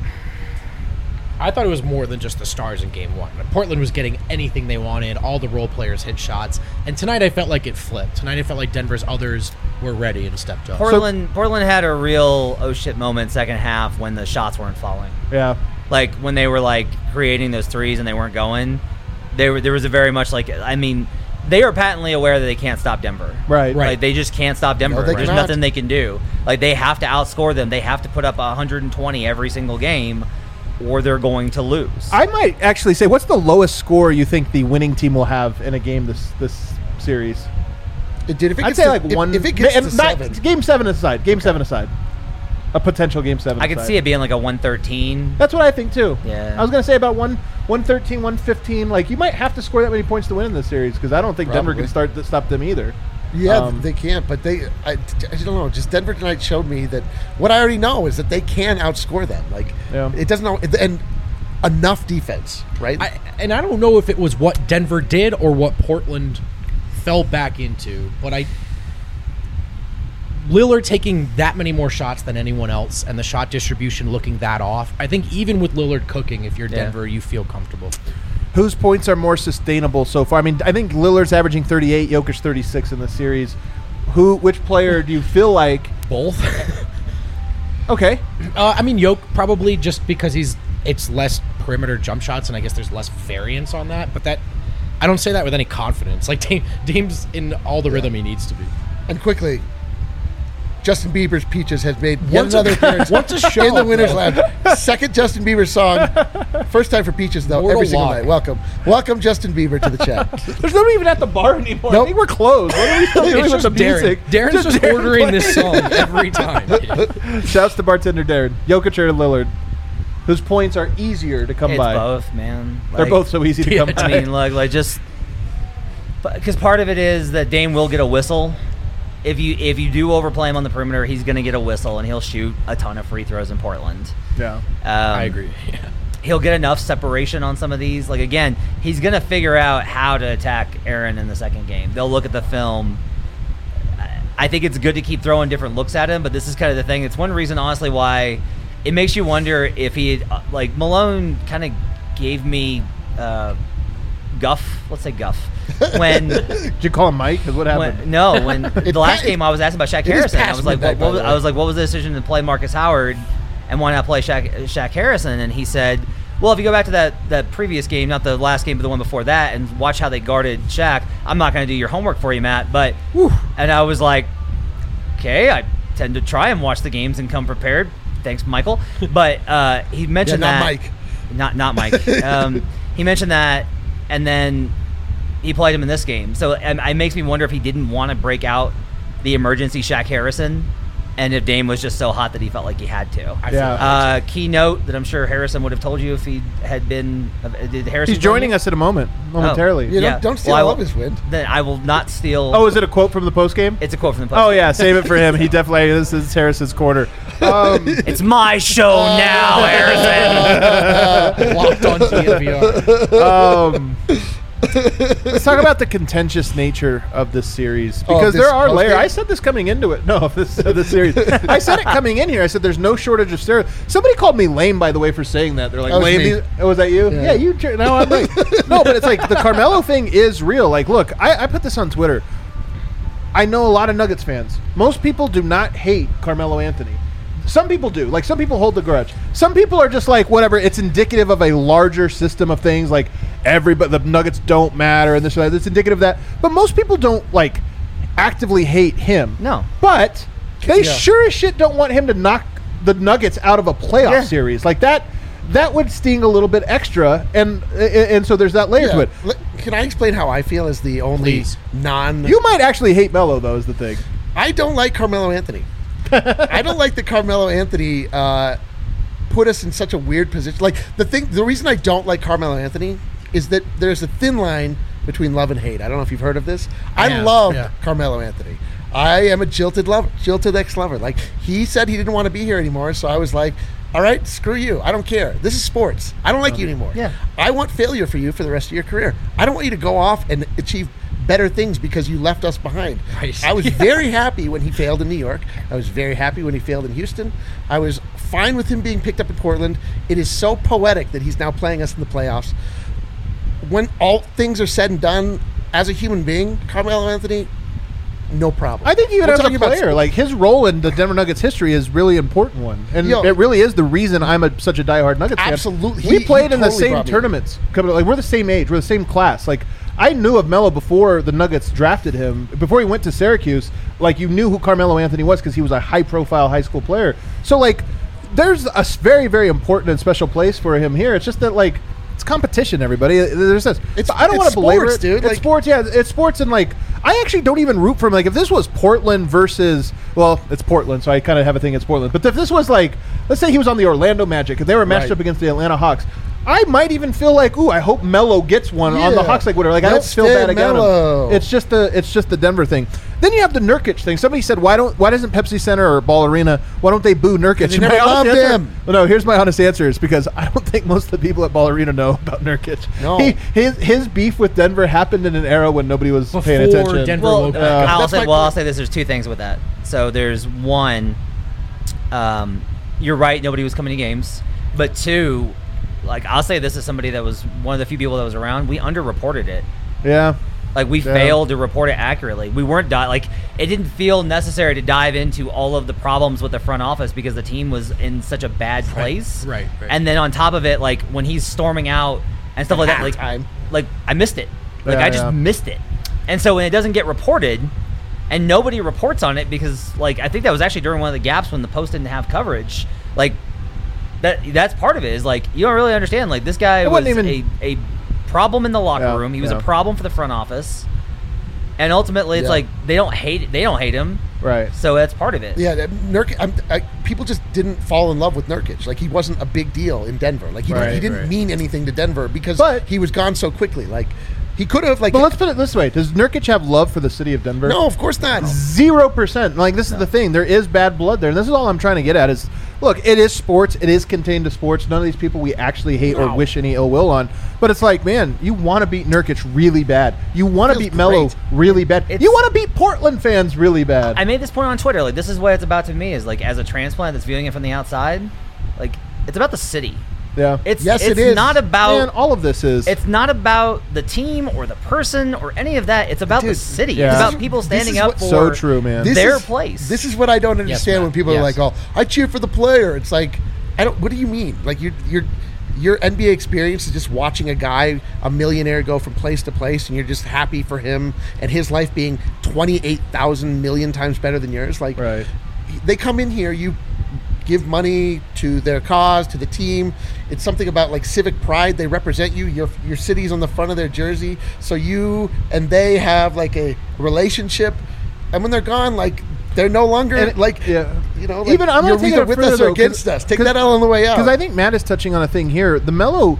I thought it was more than just the stars in Game 1. Portland was getting anything they wanted. All the role players hit shots. And tonight I felt like it flipped. Tonight I felt like Denver's others were ready and stepped up. Portland had a real oh shit moment second half when the shots weren't falling. Yeah. Like, when they were, like, creating those threes and they weren't going, there was a very much, like, I mean, they are patently aware that they can't stop Denver. Right. Like, they just can't stop Denver. No, they There's cannot. nothing they can do. Like, they have to outscore them. They have to put up 120 every single game, or they're going to lose. I might actually say, what's the lowest score you think the winning team will have in a game this series? It did. If it I'd gets say to, like one. If it gets to not, 7, Game 7 aside. Game 7 aside. A potential Game 7. I could see it being like a 113. That's what I think too. Yeah. I was gonna say about 113, 115. Like, you might have to score that many points to win in this series, because I don't think Denver can stop them either. Yeah, they can't. But I don't know. Just Denver tonight showed me that what I already know is that they can outscore them. Like, it doesn't. And enough defense, right? I don't know if it was what Denver did or what Portland fell back into, but Lillard taking that many more shots than anyone else and the shot distribution looking that off. I think even with Lillard cooking, if you're Denver, you feel comfortable. Whose points are more sustainable so far? I mean, I think Lillard's averaging 38, Jokic 36 in the series. Which player do you feel like? Both. Okay. I mean, Jokic probably, just because it's less perimeter jump shots, and I guess there's less variance on that. But I don't say that with any confidence. Like, Dame's in all the rhythm he needs to be. And quickly, Justin Bieber's Peaches has made yet another appearance What's a show, in the Winners bro? Lab. Second Justin Bieber song. First time for Peaches, though, Mortal every single Lock. night. Welcome, Justin Bieber, to the chat. There's nobody even at the bar anymore. Nope. I think we're closed. What are we still doing with the music? Darren's just Darren ordering playing. this song every time. Shouts to bartender Darren. Jokic or Lillard? Whose points are easier to come It's by? both, man. They're both so easy to come by. I mean, like just because part of it is that Dame will get a whistle. If you do overplay him on the perimeter, he's going to get a whistle, and he'll shoot a ton of free throws in Portland. Yeah. I agree. Yeah. he'll get enough separation on some of these. Like, again, he's going to figure out how to attack Aaron in the second game. They'll look at the film. I think it's good to keep throwing different looks at him, but this is kind of the thing. It's one reason, honestly, why it makes you wonder if he had, like, Malone kind of gave me guff. Let's say guff. When did you call him Mike? What happened? When the last game I was asking about Shaq Harrison, I was like, what was the decision to play Marcus Howard and why not play Shaq Harrison? And he said, well, if you go back to that previous game, not the last game, but the one before that, and watch how they guarded Shaq, I'm not going to do your homework for you, Matt. But and I was like, okay, I tend to try and watch the games and come prepared. Thanks, Michael. But he mentioned not that. Mike. Not Mike. He mentioned that, and then he played him in this game. So it makes me wonder if he didn't want to break out the emergency Shaq Harrison, and if Dame was just so hot that he felt like he had to. Key note that I'm sure Harrison would have told you if he had been. Did Harrison? He's joining us in a moment, momentarily. Don't steal all of his wind. Then I will not steal. Oh, is it a quote from the post game? It's a quote from the post game. Oh yeah, save it for him. He definitely. This is Harrison's quarter. It's my show now, Harrison. Locked on DNVR. Let's talk about the contentious nature of this series, because there are layers. I said this coming into it. No, of this series. I said it coming in here. I said there's no shortage of steroids. Somebody called me lame, by the way, for saying that. They're like, lame. Was that you? Yeah, you. No, I'm like, no, but it's like the Carmelo thing is real. Like, look, I put this on Twitter. I know a lot of Nuggets fans. Most people do not hate Carmelo Anthony. Some people do. Like, some people hold the grudge. Some people are just like, whatever. It's indicative of a larger system of things. Like, the Nuggets don't matter and this or that. It's indicative of that. But most people don't, like, actively hate him. No. But they sure as shit don't want him to knock the Nuggets out of a playoff series. Like, that would sting a little bit extra. And so there's that layer to it. Can I explain how I feel as the only You might actually hate Melo, though, is the thing. I don't like Carmelo Anthony. I don't like that Carmelo Anthony put us in such a weird position. Like, the reason I don't like Carmelo Anthony is that there's a thin line between love and hate. I don't know if you've heard of this. I love Carmelo Anthony. I am a jilted ex-lover. Like, he said he didn't want to be here anymore, so I was like, all right, screw you. I don't care. This is sports. I don't like you anymore. Yeah. I want failure for you for the rest of your career. I don't want you to go off and achieve better things because you left us behind. Right. I was very happy when he failed in New York. I was very happy when he failed in Houston. I was fine with him being picked up in Portland. It is so poetic that he's now playing us in the playoffs. When all things are said and done, as a human being, Carmelo Anthony, no problem. I think even as a player, like, his role in the Denver Nuggets history is really important one, and it really is the reason I'm such a diehard Nuggets fan. Absolutely, we played in the same tournaments. Like, we're the same age, we're the same class. Like, I knew of Melo before the Nuggets drafted him. Before he went to Syracuse, like, you knew who Carmelo Anthony was because he was a high-profile high school player. So, like, there's a very, very important and special place for him here. It's just that, like, it's competition, everybody. There's this. I don't want to belabor it, dude. It's like, sports, yeah. It's sports, and, like, I actually don't even root for him. Like, if this was Portland versus, well, it's Portland, so I kind of have a thing against Portland. But if this was, like, let's say he was on the Orlando Magic and they were matched up against the Atlanta Hawks, I might even feel like, ooh, I hope Melo gets one on the Hawks, like, whatever. Like, I don't feel bad against him. It's just the Denver thing. Then you have the Nurkic thing. Somebody said, why doesn't Pepsi Center or Ball Arena, why don't they boo Nurkic? They never loved him. Well, no, here's my honest answer, is because I don't think most of the people at Ball Arena know about Nurkic. No. His beef with Denver happened in an era when nobody was paying attention. Denver woke up. I'll say this. There's two things with that. So there's one, you're right, nobody was coming to games. But two, like, I'll say this as somebody that was one of the few people that was around, we underreported it. Yeah. Like, we failed to report it accurately. We weren't like, it didn't feel necessary to dive into all of the problems with the front office because the team was in such a bad place. Right. And then on top of it, like, when he's storming out and stuff like that, like I missed it. Like, I just missed it. And so when it doesn't get reported and nobody reports on it because, like, I think that was actually during one of the gaps when the Post didn't have coverage, like, that's part of it, is, like, you don't really understand. Like, this guy was a problem in the locker room. He was a problem for the front office, and ultimately, it's like they don't hate him, right? So that's part of it. Yeah, people just didn't fall in love with Nurkic. Like, he wasn't a big deal in Denver. Like, he didn't mean anything to Denver because he was gone so quickly. Like, he could have, like. But let's put it this way: does Nurkic have love for the city of Denver? No, of course not. 0%. Like, this is the thing. There is bad blood there, and this is all I'm trying to get at. Is, look, it is sports. It is contained to sports. None of these people we actually hate or wish any ill will on. But it's like, man, you want to beat Nurkic really bad. You want to beat Melo really bad. You want to beat Portland fans really bad. I made this point on Twitter. Like, this is what it's about to me. Is like, as a transplant that's viewing it from the outside, like, it's about the city. Yeah. It is not about. Man, all of this is. It's not about the team or the person or any of that. It's about the city. Yeah. It's about people standing up for so true, man. their place. This is what I don't understand when people are like, "Oh, I cheer for the player." It's like, I don't. What do you mean? Like your NBA experience is just watching a guy, a millionaire, go from place to place, and you're just happy for him and his life being 28,000 million times better than yours. Like, right. They come in here, you give money to their cause, to the team. It's something about like civic pride. They represent you. Your city's on the front of their jersey. So you and they have like a relationship. And when they're gone, like they're no longer even I'm you're not taking either it with further, us or though, against us. Take that out on the way out. Because I think Matt is touching on a thing here. The Melo,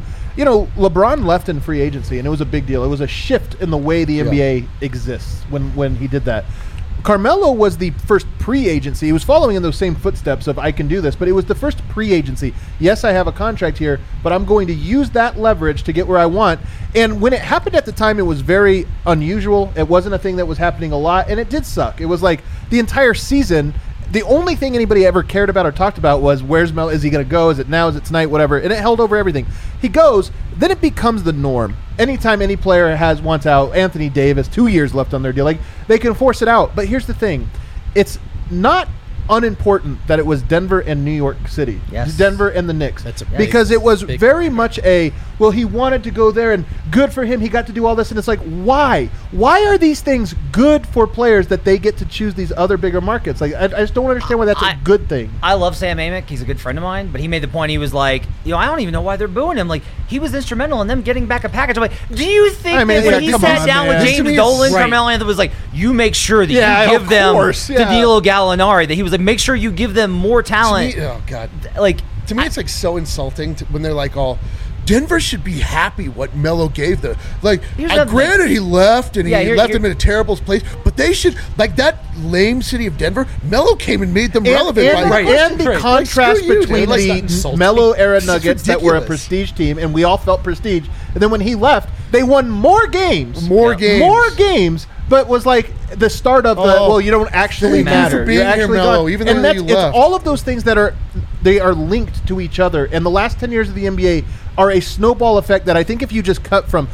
LeBron left in free agency, and it was a big deal. It was a shift in the way the NBA exists when he did that. Carmelo was the first pre-agency. He was following in those same footsteps of I can do this, but it was the first pre-agency. Yes, I have a contract here, but I'm going to use that leverage to get where I want. And when it happened at the time, it was very unusual. It wasn't a thing that was happening a lot, and it did suck. It was like the entire season, the only thing anybody ever cared about or talked about was where's Melo? Is he going to go? Is it now? Is it tonight? Whatever. And it held over everything. He goes, then it becomes the norm. Anytime any player wants out, Anthony Davis, 2 years left on their deal, like they can force it out. But here's the thing. It's not unimportant that it was Denver and New York City. Yes. Denver and the Knicks. Because it was very much he wanted to go there and good for him. He got to do all this. And it's like, why? Why are these things good for players that they get to choose these other bigger markets? Like, I just don't understand why that's a good thing. I love Sam Amick. He's a good friend of mine. But he made the point. He was like, I don't even know why they're booing him. Like, he was instrumental in them getting back a package. I'm like, do you think that when he sat down with James Dolan, Carmelo Anthony was like, you make sure that you give them Danilo Gallinari, that he was like, make sure you give them more talent. Oh, God. Like, to me, it's like so insulting when they're like all, Denver should be happy what Melo gave them. Like, granted, he left and he left them in a terrible place, but they should, like that lame city of Denver, Melo came and made them relevant. And the contrast between the Melo era Nuggets that were a prestige team, and we all felt prestige, and then when he left, they won more games. More games. But was like the start of you don't actually matter. You're actually Melo, even though you left. It's all of those things that are linked to each other. And the last 10 years of the NBA are a snowball effect that I think if you just cut from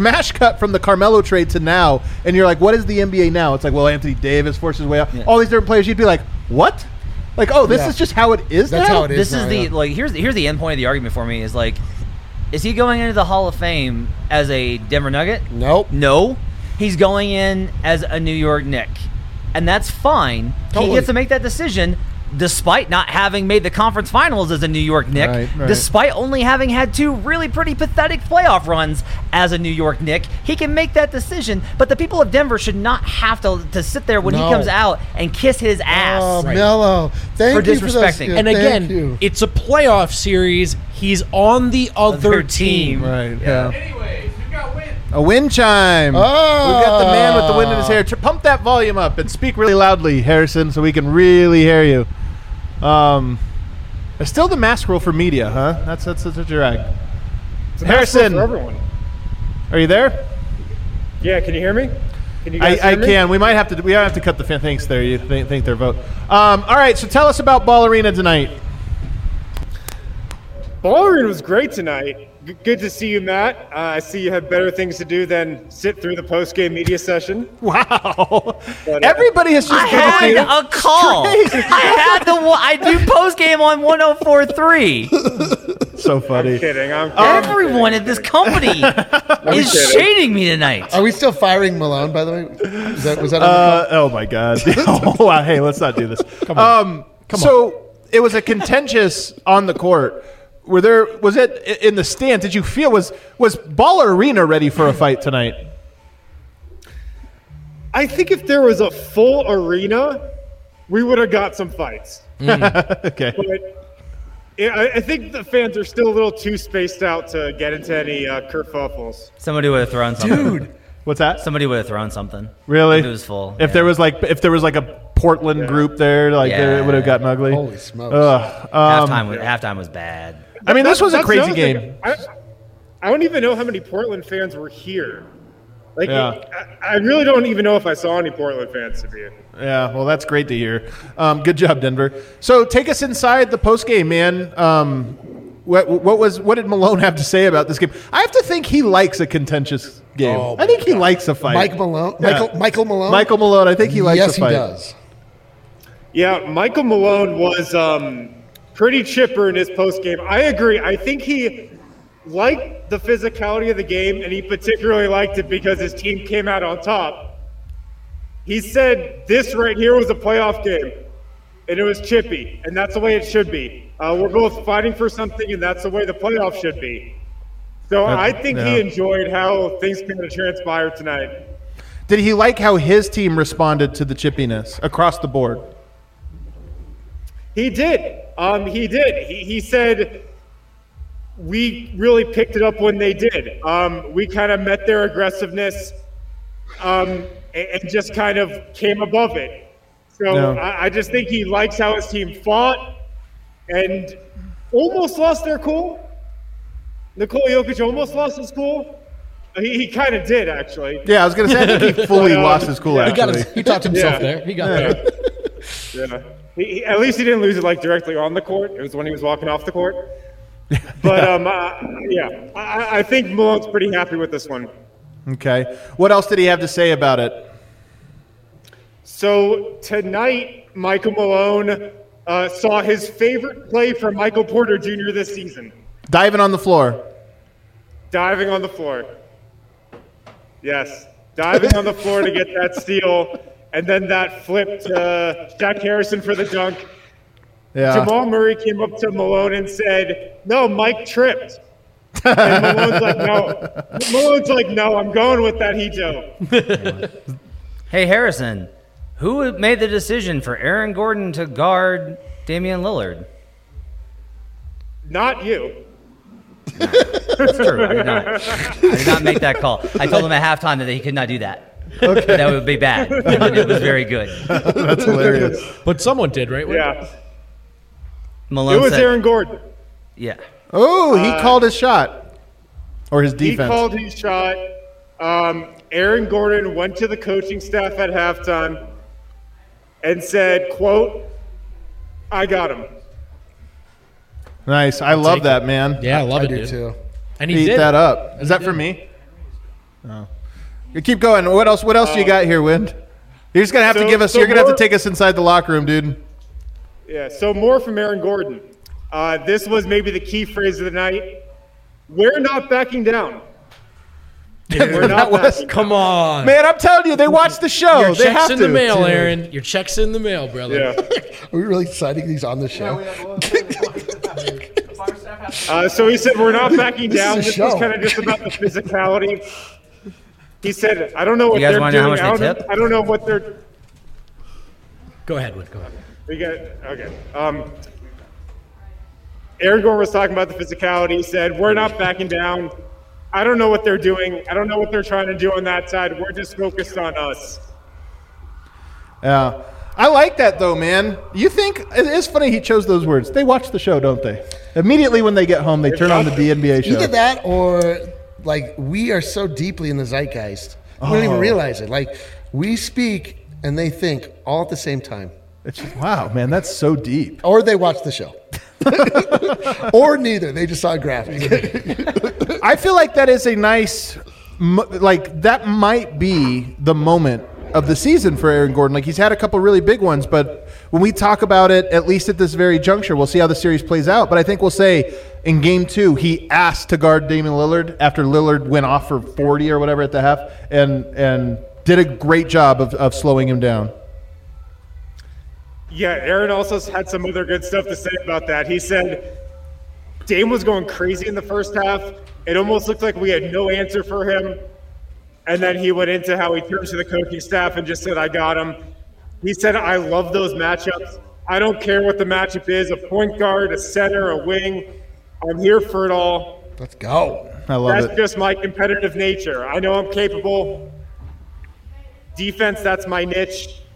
the Carmelo trade to now, and you're like, what is the NBA now? It's like, well, Anthony Davis forced his way out. Yeah. All these different players, you'd be like, what? Like, this is just how it is now? That's how it is. This is here's the end point of the argument for me is like, is he going into the Hall of Fame as a Denver Nugget? Nope. No. He's going in as a New York Knick. And that's fine. Totally. He gets to make that decision despite not having made the conference finals as a New York Knick, right. Despite only having had two really pretty pathetic playoff runs as a New York Knick. He can make that decision, but the people of Denver should not have to sit there when he comes out and kiss his ass. Oh, Melo. Thank you for disrespecting. And again, it's a playoff series. He's on the other team. Right, yeah. Anyways, we've got win. A wind chime. Oh. We've got the man with the wind in his hair. Pump that volume up and speak really loudly, Harrison, so we can really hear you. It's still the mask rule for media, huh? That's a drag. Harrison, for everyone. Are you there? Yeah, can you hear me? Can you guys hear me? Can. We might have to cut the thanks there. You think their vote. All right, so tell us about Ball Arena tonight. Ball Arena was great tonight. Good to see you, Matt. I see you have better things to do than sit through the post-game media session. Wow. But, everybody has just I had a call. I do post-game on 104.3. So funny. I'm kidding. Everyone at this company is shading me tonight. Are we still firing Malone, by the way? Was that on the call? Oh, my God. Oh, wow. Hey, let's not do this. Come on. It was a contentious on the court. Was it in the stands? Did you feel was Ball Arena ready for a fight tonight? I think if there was a full arena, we would have got some fights. Okay. But I think the fans are still a little too spaced out to get into any kerfuffles. Somebody would have thrown something. Dude. What's that? Somebody would have thrown something. Really? If it was full. If there was like a Portland group there. Like it would have gotten ugly. Holy smokes! Halftime was bad. I mean, this was a crazy game. I don't even know how many Portland fans were here. Like, I really don't even know if I saw any Portland fans to be in. Yeah, well, that's great to hear. Good job, Denver. So take us inside the postgame, man. What did Malone have to say about this game? I have to think he likes a contentious game. I think he likes a fight. Michael Malone? Michael Malone, I think he likes a fight. Yes, he does. Yeah, Michael Malone was pretty chipper in his postgame. I agree. I think he liked the physicality of the game, and he particularly liked it because his team came out on top. He said this right here was a playoff game, and it was chippy, and that's the way it should be. We're both fighting for something, and that's the way the playoff should be. So I think he enjoyed how things kind of transpired tonight. Did he like how his team responded to the chippiness across the board? He did. He did. He said we really picked it up when they did. We kind of met their aggressiveness and just kind of came above it. So I just think he likes how his team fought and almost lost their cool. Nikola Jokic almost lost his cool. He kind of did, actually. Yeah, I was going to say, I think he fully lost his cool, actually. He talked himself there. He got there. Yeah. At least he didn't lose it, like, directly on the court. It was when he was walking off the court. But, I think Malone's pretty happy with this one. Okay. What else did he have to say about it? So, tonight, Michael Malone saw his favorite play from Michael Porter Jr. this season. Diving on the floor. Diving on the floor. Yes. Diving on the floor to get that steal. And then that flip to Jack Harrison for the dunk. Yeah. Jamal Murray came up to Malone and said, "No, Mike tripped." And Malone's like, "No." Malone's like, "No, I'm going with that Hito." Hey, Harrison, who made the decision for Aaron Gordon to guard Damian Lillard? Not you. That's true. I did not make that call. I told him at halftime that he could not do that. Okay. That would be bad. And it was very good. That's hilarious. But someone did, right? Yeah. Malone it was said, Aaron Gordon. Yeah. Oh, he called his shot. Or his defense. He called his shot. Aaron Gordon went to the coaching staff at halftime and said, quote, "I got him." Nice. I love that, man. Yeah, I love it, do dude. too. And he Eat did that up. Is that for me? Oh. You keep going. What else do you got here, Wind? You're just gonna have to give us. You're gonna have to take us inside the locker room, dude. Yeah. So more from Aaron Gordon. This was maybe the key phrase of the night. We're not backing down. We're not backing Come on. Man, I'm telling you, they watched the show. Your They check's have in to. the mail, Aaron. Your check's in the mail, brother. Yeah. Are we really citing these on the show? So he said, "We're not backing down." This is This a was show. kind of just about the physicality. He said, "I don't know what You guys they're wanna know how doing. much they tip? I don't know what they're." Go ahead, Wood. Go ahead. We got okay. Aaron Gordon was talking about the physicality. He said, "We're not backing down. I don't know what they're doing. I don't know what they're trying to do on that side. We're just focused on us." Yeah. I like that, though, man. You think it is funny he chose those words. They watch the show, don't they? Immediately when they get home, they turn on the DNBA show. Either that or, like, we are so deeply in the zeitgeist. We don't even realize it. Like, we speak and they think all at the same time. It's just, wow, man, that's so deep. Or they watch the show. Or neither. They just saw a graphic. I feel like that is a nice, like, that might be the moment of the season for Aaron Gordon. Like, he's had a couple really big ones, but when we talk about it, at least at this very juncture, we'll see how the series plays out. But I think we'll say in game 2, he asked to guard Damian Lillard after Lillard went off for 40 or whatever at the half and did a great job of slowing him down. Yeah, Aaron also had some other good stuff to say about that. He said Dame was going crazy in the first half. It almost looked like we had no answer for him. And then he went into how he turned to the coaching staff and just said, "I got him." He said, "I love those matchups. I don't care what the matchup is, a point guard, a center, a wing. I'm here for it all. Let's go. I love That's it. just my competitive nature. I know I'm capable. Defense, that's my niche.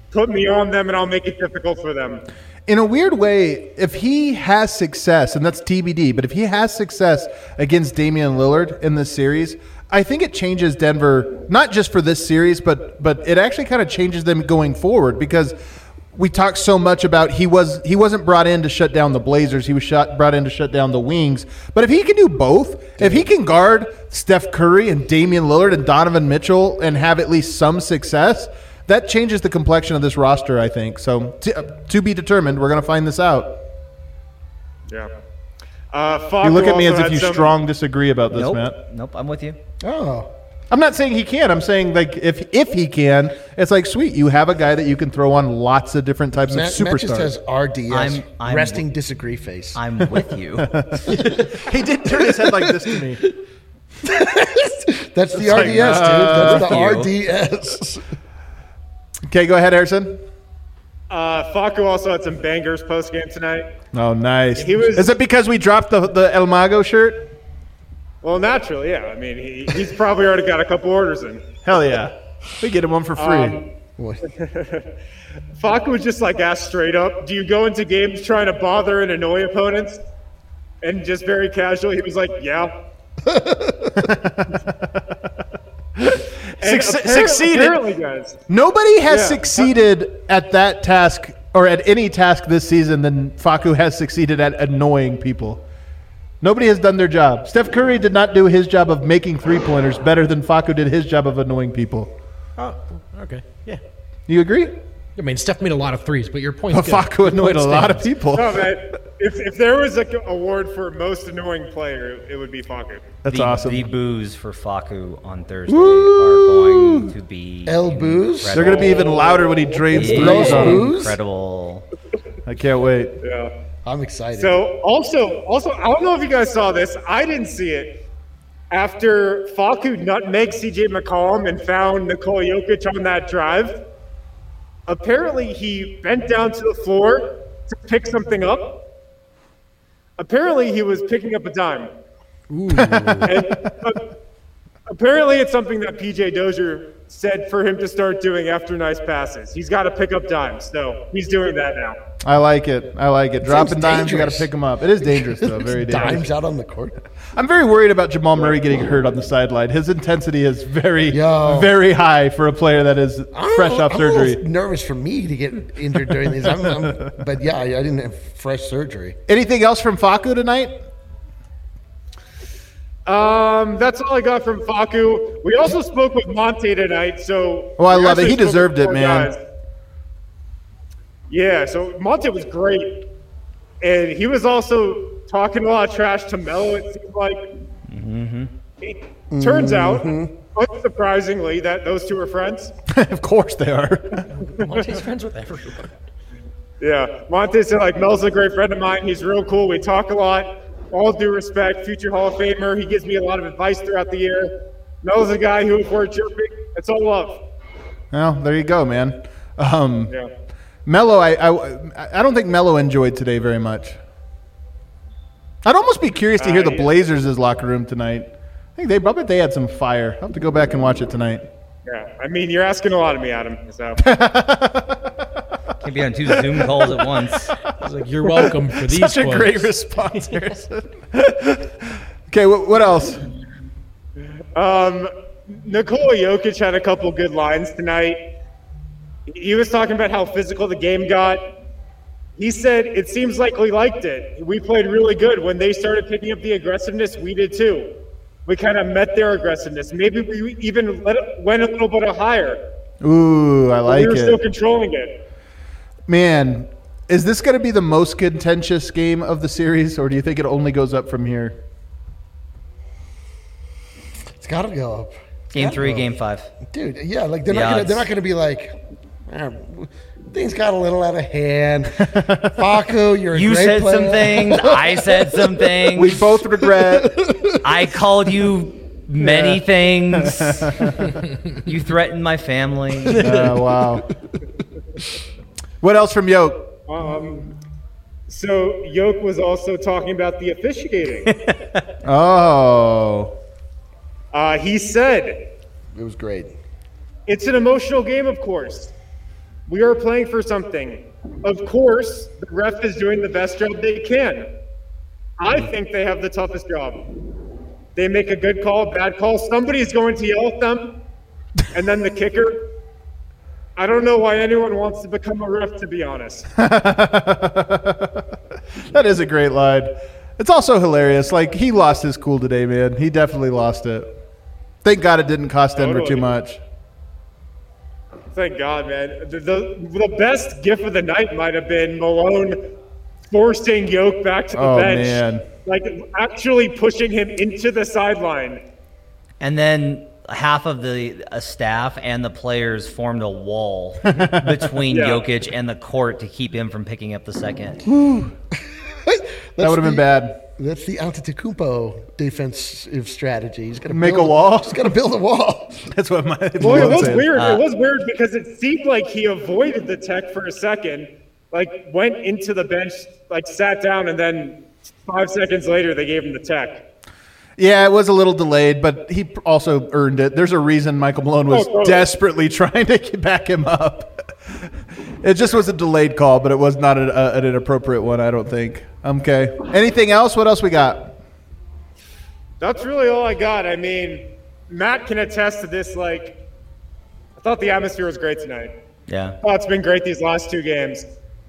put me on them and I'll make it difficult for them. In a weird way, if he has success, and that's TBD, but if he has success against Damian Lillard in this series, I think it changes Denver, not just for this series, but it actually kind of changes them going forward, because we talked so much about he wasn't brought in to shut down the Blazers. He was brought in to shut down the Wings. But if he can do both, if he can guard Steph Curry and Damian Lillard and Donovan Mitchell and have at least some success, that changes the complexion of this roster, I think. So to be determined. We're going to find this out. Yeah. You look at me as if you strong disagree about this, Matt. Nope, I'm with you. Oh. I'm not saying he can. I'm saying, like, if he can, it's like, sweet, you have a guy that you can throw on lots of different types of superstars. Matt just has RDS, I'm resting disagree face. I'm with you. He did turn his head like this to me. That's the RDS, dude. That's the RDS. Okay, go ahead, Harrison. Facu also had some bangers post game tonight. Oh, nice. Is it because we dropped the El Mago shirt? Well, naturally, yeah. I mean, he's probably already got a couple orders in. Hell yeah. We get him one for free. Facu was just like asked straight up, do you go into games trying to bother and annoy opponents? And just very casually, he was like, yeah. Succeeded. Apparently, guys. Nobody has succeeded at that task or at any task this season than Facu has succeeded at annoying people. Nobody has done their job. Steph Curry did not do his job of making three-pointers better than Facu did his job of annoying people. Oh, okay. Yeah. You agree? I mean, Steph made a lot of threes, but your point's good. Facu annoyed a lot of people. No, man. If there was an award for most annoying player, it would be Facu. That's awesome. The boos for Facu on Thursday are going to be El boos? They're going to be even louder when he drains threes on them. Incredible. I can't wait. Yeah. I'm excited. So also, I don't know if you guys saw this. I didn't see it. After Facu nutmegged CJ McCollum and found Nikola Jokic on that drive, apparently he bent down to the floor to pick something up. Apparently he was picking up a dime. Ooh. And, apparently it's something that PJ Dozier said for him to start doing after nice passes. He's got to pick up dimes, so he's doing that now. I like it. Dropping dimes, you got to pick them up. It is dangerous, though. Very dangerous. Dimes out on the court. I'm very worried about Jamal Murray getting hurt on the sideline. His intensity is very high for a player that is fresh off surgery. I'm nervous for me to get injured during these. But yeah, I didn't have fresh surgery. Anything else from Facu tonight? That's all I got from Facu. We also spoke with Monte tonight, so. Oh, I love it. He deserved it, man. Guys. Yeah, so Monte was great, and he was also talking a lot of trash to Melo. It seems like. It turns out, unsurprisingly, that those two are friends. Of course they are. Monte's friends with everyone. Yeah, Monte said like Mel's a great friend of mine. He's real cool. We talk a lot. All due respect, future Hall of Famer. He gives me a lot of advice throughout the year. Mel's a guy who, if we're chirping, it's all love. Well, there you go, man. Yeah. Melo, I don't think Melo enjoyed today very much. I'd almost be curious to hear the Blazers' locker room tonight. I think they had some fire. I'll have to go back and watch it tonight. Yeah, I mean, you're asking a lot of me, Adam. So. Can't be on two Zoom calls at once. I was like, you're welcome for these Such a quotes. great response, Harrison. Okay, what else? Nikola Jokic had a couple good lines tonight. He was talking about how physical the game got. He said, it seems like we liked it. We played really good. When they started picking up the aggressiveness, we did too. We kind of met their aggressiveness. Maybe we even went a little bit higher. Ooh, I like it. We were still controlling it. Man, is this going to be the most contentious game of the series, or do you think it only goes up from here? It's got to go up. Game 3, Game 5. Dude, yeah, like they're not going to be like, things got a little out of hand. Facu, you're a You great said player. some things. I said some things. We both regret. I called you many things. You threatened my family. Wow. What else from Yoke? So Yoke was also talking about the officiating. Oh. He said, It was great. it's an emotional game, of course. We are playing for something. Of course, the ref is doing the best job they can. I think they have the toughest job. They make a good call, a bad call. Somebody's going to yell at them, and then the kicker. I don't know why anyone wants to become a ref, to be honest. That is a great line. It's also hilarious. Like, he lost his cool today, man. He definitely lost it. Thank God it didn't cost Denver too much. Thank God, man. The best gif of the night might have been Malone forcing Yoke back to the bench. Man. Like, actually pushing him into the sideline. And then half of the staff and the players formed a wall between Jokic and the court to keep him from picking up the second. That would have been bad. That's the Antetokounmpo defensive strategy. He's got to make a wall. He's got to build a wall. That's what my. Well, it was weird. It was weird because it seemed like he avoided the tech for a second, like went into the bench, like sat down, and then 5 seconds later they gave him the tech. Yeah, it was a little delayed, but he also earned it. There's a reason Michael Malone was desperately trying to back him up. It just was a delayed call, but it was not an inappropriate one, I don't think. Okay. Anything else? What else we got? That's really all I got. I mean, Matt can attest to this. Like, I thought the atmosphere was great tonight. Yeah. Oh, it's been great these last 2 games.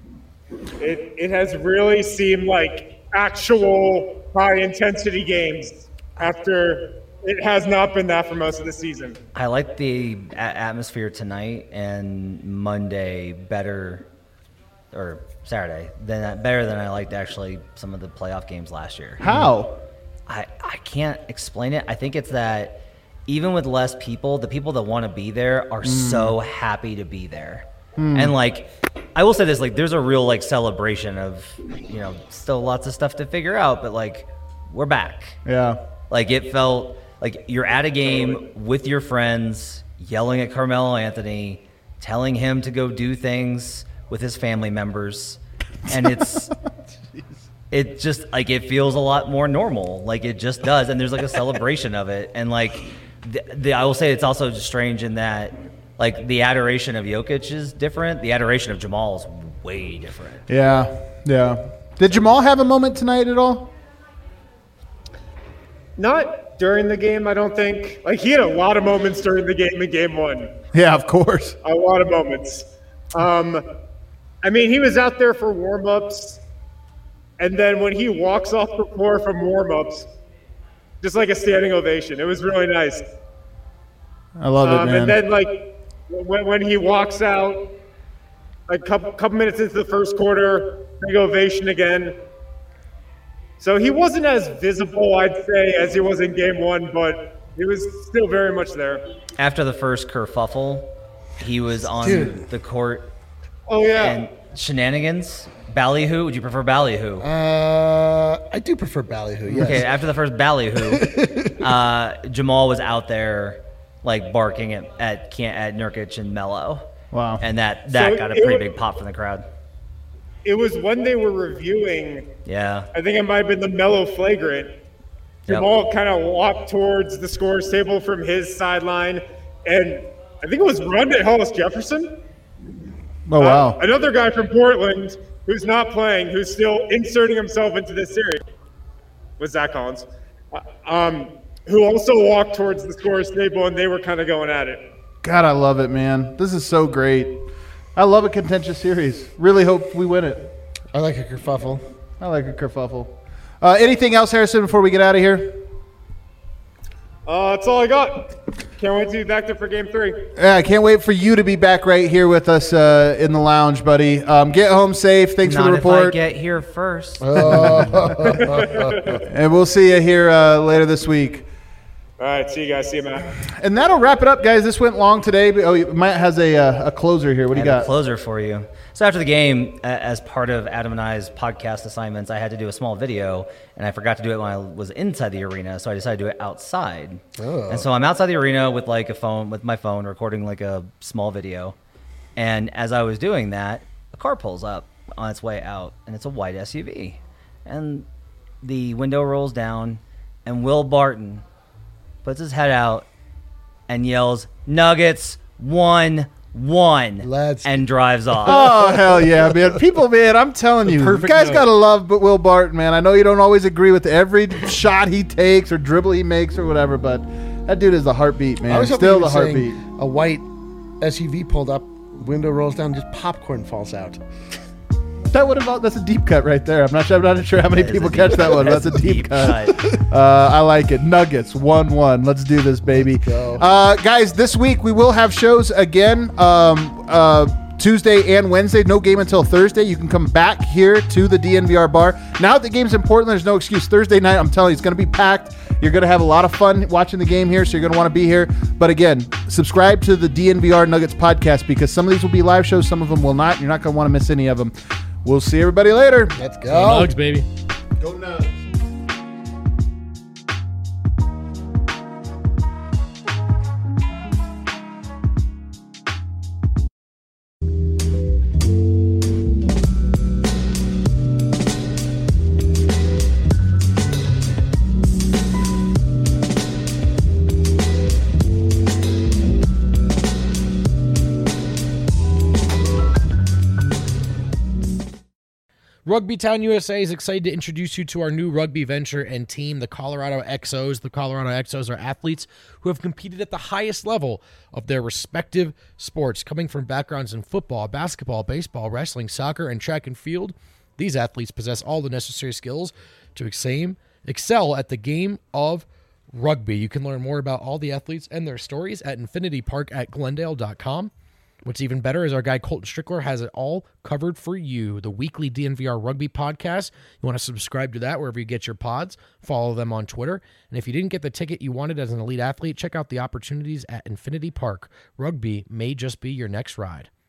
It has really seemed like actual high-intensity games after it has not been that for most of the season. I like the atmosphere tonight and Monday better, or Saturday, better than I liked actually some of the playoff games last year. How? I can't explain it. I think it's that even with less people, the people that want to be there are so happy to be there. And like, I will say this, like, there's a real like celebration of, still lots of stuff to figure out, but like, we're back. Yeah. Like, it felt like you're at a game with your friends, yelling at Carmelo Anthony, telling him to go do things with his family members. And it just, like, it feels a lot more normal. Like, it just does. And there's, like, a celebration of it. And, like, I will say it's also strange in that, like, the adoration of Jokic is different. The adoration of Jamal is way different. Yeah. Did Jamal have a moment tonight at all? Not during the game, I don't think. Like, he had a lot of moments during the game in Game 1. Yeah, of course. A lot of moments. I mean, he was out there for warm-ups, and then when he walks off the floor from warm-ups, just like a standing ovation. It was really nice. I love it, man. And then, like, when he walks out, like, couple minutes into the first quarter, big ovation again. So he wasn't as visible, I'd say, as he was in Game 1, but he was still very much there. After the first kerfuffle, he was on the court. Oh, yeah. And shenanigans. Ballyhoo? Would you prefer ballyhoo? I do prefer ballyhoo, yes. Okay, after the first ballyhoo, Jamal was out there, like, barking at Nurkic and Melo. Wow. And that got a pretty big pop from the crowd. It was when they were reviewing. Yeah. I think it might have been the Melo flagrant. Jamal kind of walked towards the scores table from his sideline, and I think it was Rondé Hollis-Jefferson. Oh, wow. Another guy from Portland who's not playing, who's still inserting himself into this series, was Zach Collins, who also walked towards the scores table, and they were kind of going at it. God, I love it, man. This is so great. I love a contentious series. Really hope we win it. I like a kerfuffle. Anything else, Harrison, before we get out of here? That's all I got. Can't wait to be back there for Game 3. Yeah, I can't wait for you to be back right here with us in the lounge, buddy. Get home safe. Thanks for the report. Not if I get here first. And we'll see you here later this week. All right, see you guys. See you, Matt. And that'll wrap it up, guys. This went long today. But, Matt has a closer here. What do you got? A closer for you. So after the game, as part of Adam and I's podcast assignments, I had to do a small video, and I forgot to do it when I was inside the arena, so I decided to do it outside. Oh. And so I'm outside the arena with my phone, recording like a small video. And as I was doing that, a car pulls up on its way out, and it's a white SUV. And the window rolls down, and Will Barton puts his head out and yells, "Nuggets won and drives off. Oh, hell yeah, man. People, man, I'm telling you, you guys got to love but Will Barton, man. I know you don't always agree with every shot he takes or dribble he makes or whatever, but that dude is the heartbeat, man. I was still the heartbeat. A white SUV pulled up, window rolls down, just popcorn falls out. That's a deep cut right there. I'm not sure how many people catch that one. But that's a deep cut. I like it. Nuggets 1-1. Let's do this, baby. Guys, this week we will have shows again. Tuesday and Wednesday. No game until Thursday. You can come back here to the DNVR bar. Now that the game's in Portland, there's no excuse. Thursday night, I'm telling you, it's going to be packed. You're going to have a lot of fun watching the game here, so you're going to want to be here. But again, subscribe to the DNVR Nuggets podcast because some of these will be live shows, some of them will not. You're not going to want to miss any of them. We'll see everybody later. Let's go. Go Nugs, baby. Go Nugs. Rugby Town USA is excited to introduce you to our new rugby venture and team, the Colorado XOs. The Colorado XOs are athletes who have competed at the highest level of their respective sports, coming from backgrounds in football, basketball, baseball, wrestling, soccer, and track and field. These athletes possess all the necessary skills to excel at the game of rugby. You can learn more about all the athletes and their stories at infinitypark@glendale.com. What's even better is our guy Colton Strickler has it all covered for you. The weekly DNVR Rugby podcast. You want to subscribe to that wherever you get your pods. Follow them on Twitter. And if you didn't get the ticket you wanted as an elite athlete, check out the opportunities at Infinity Park. Rugby may just be your next ride.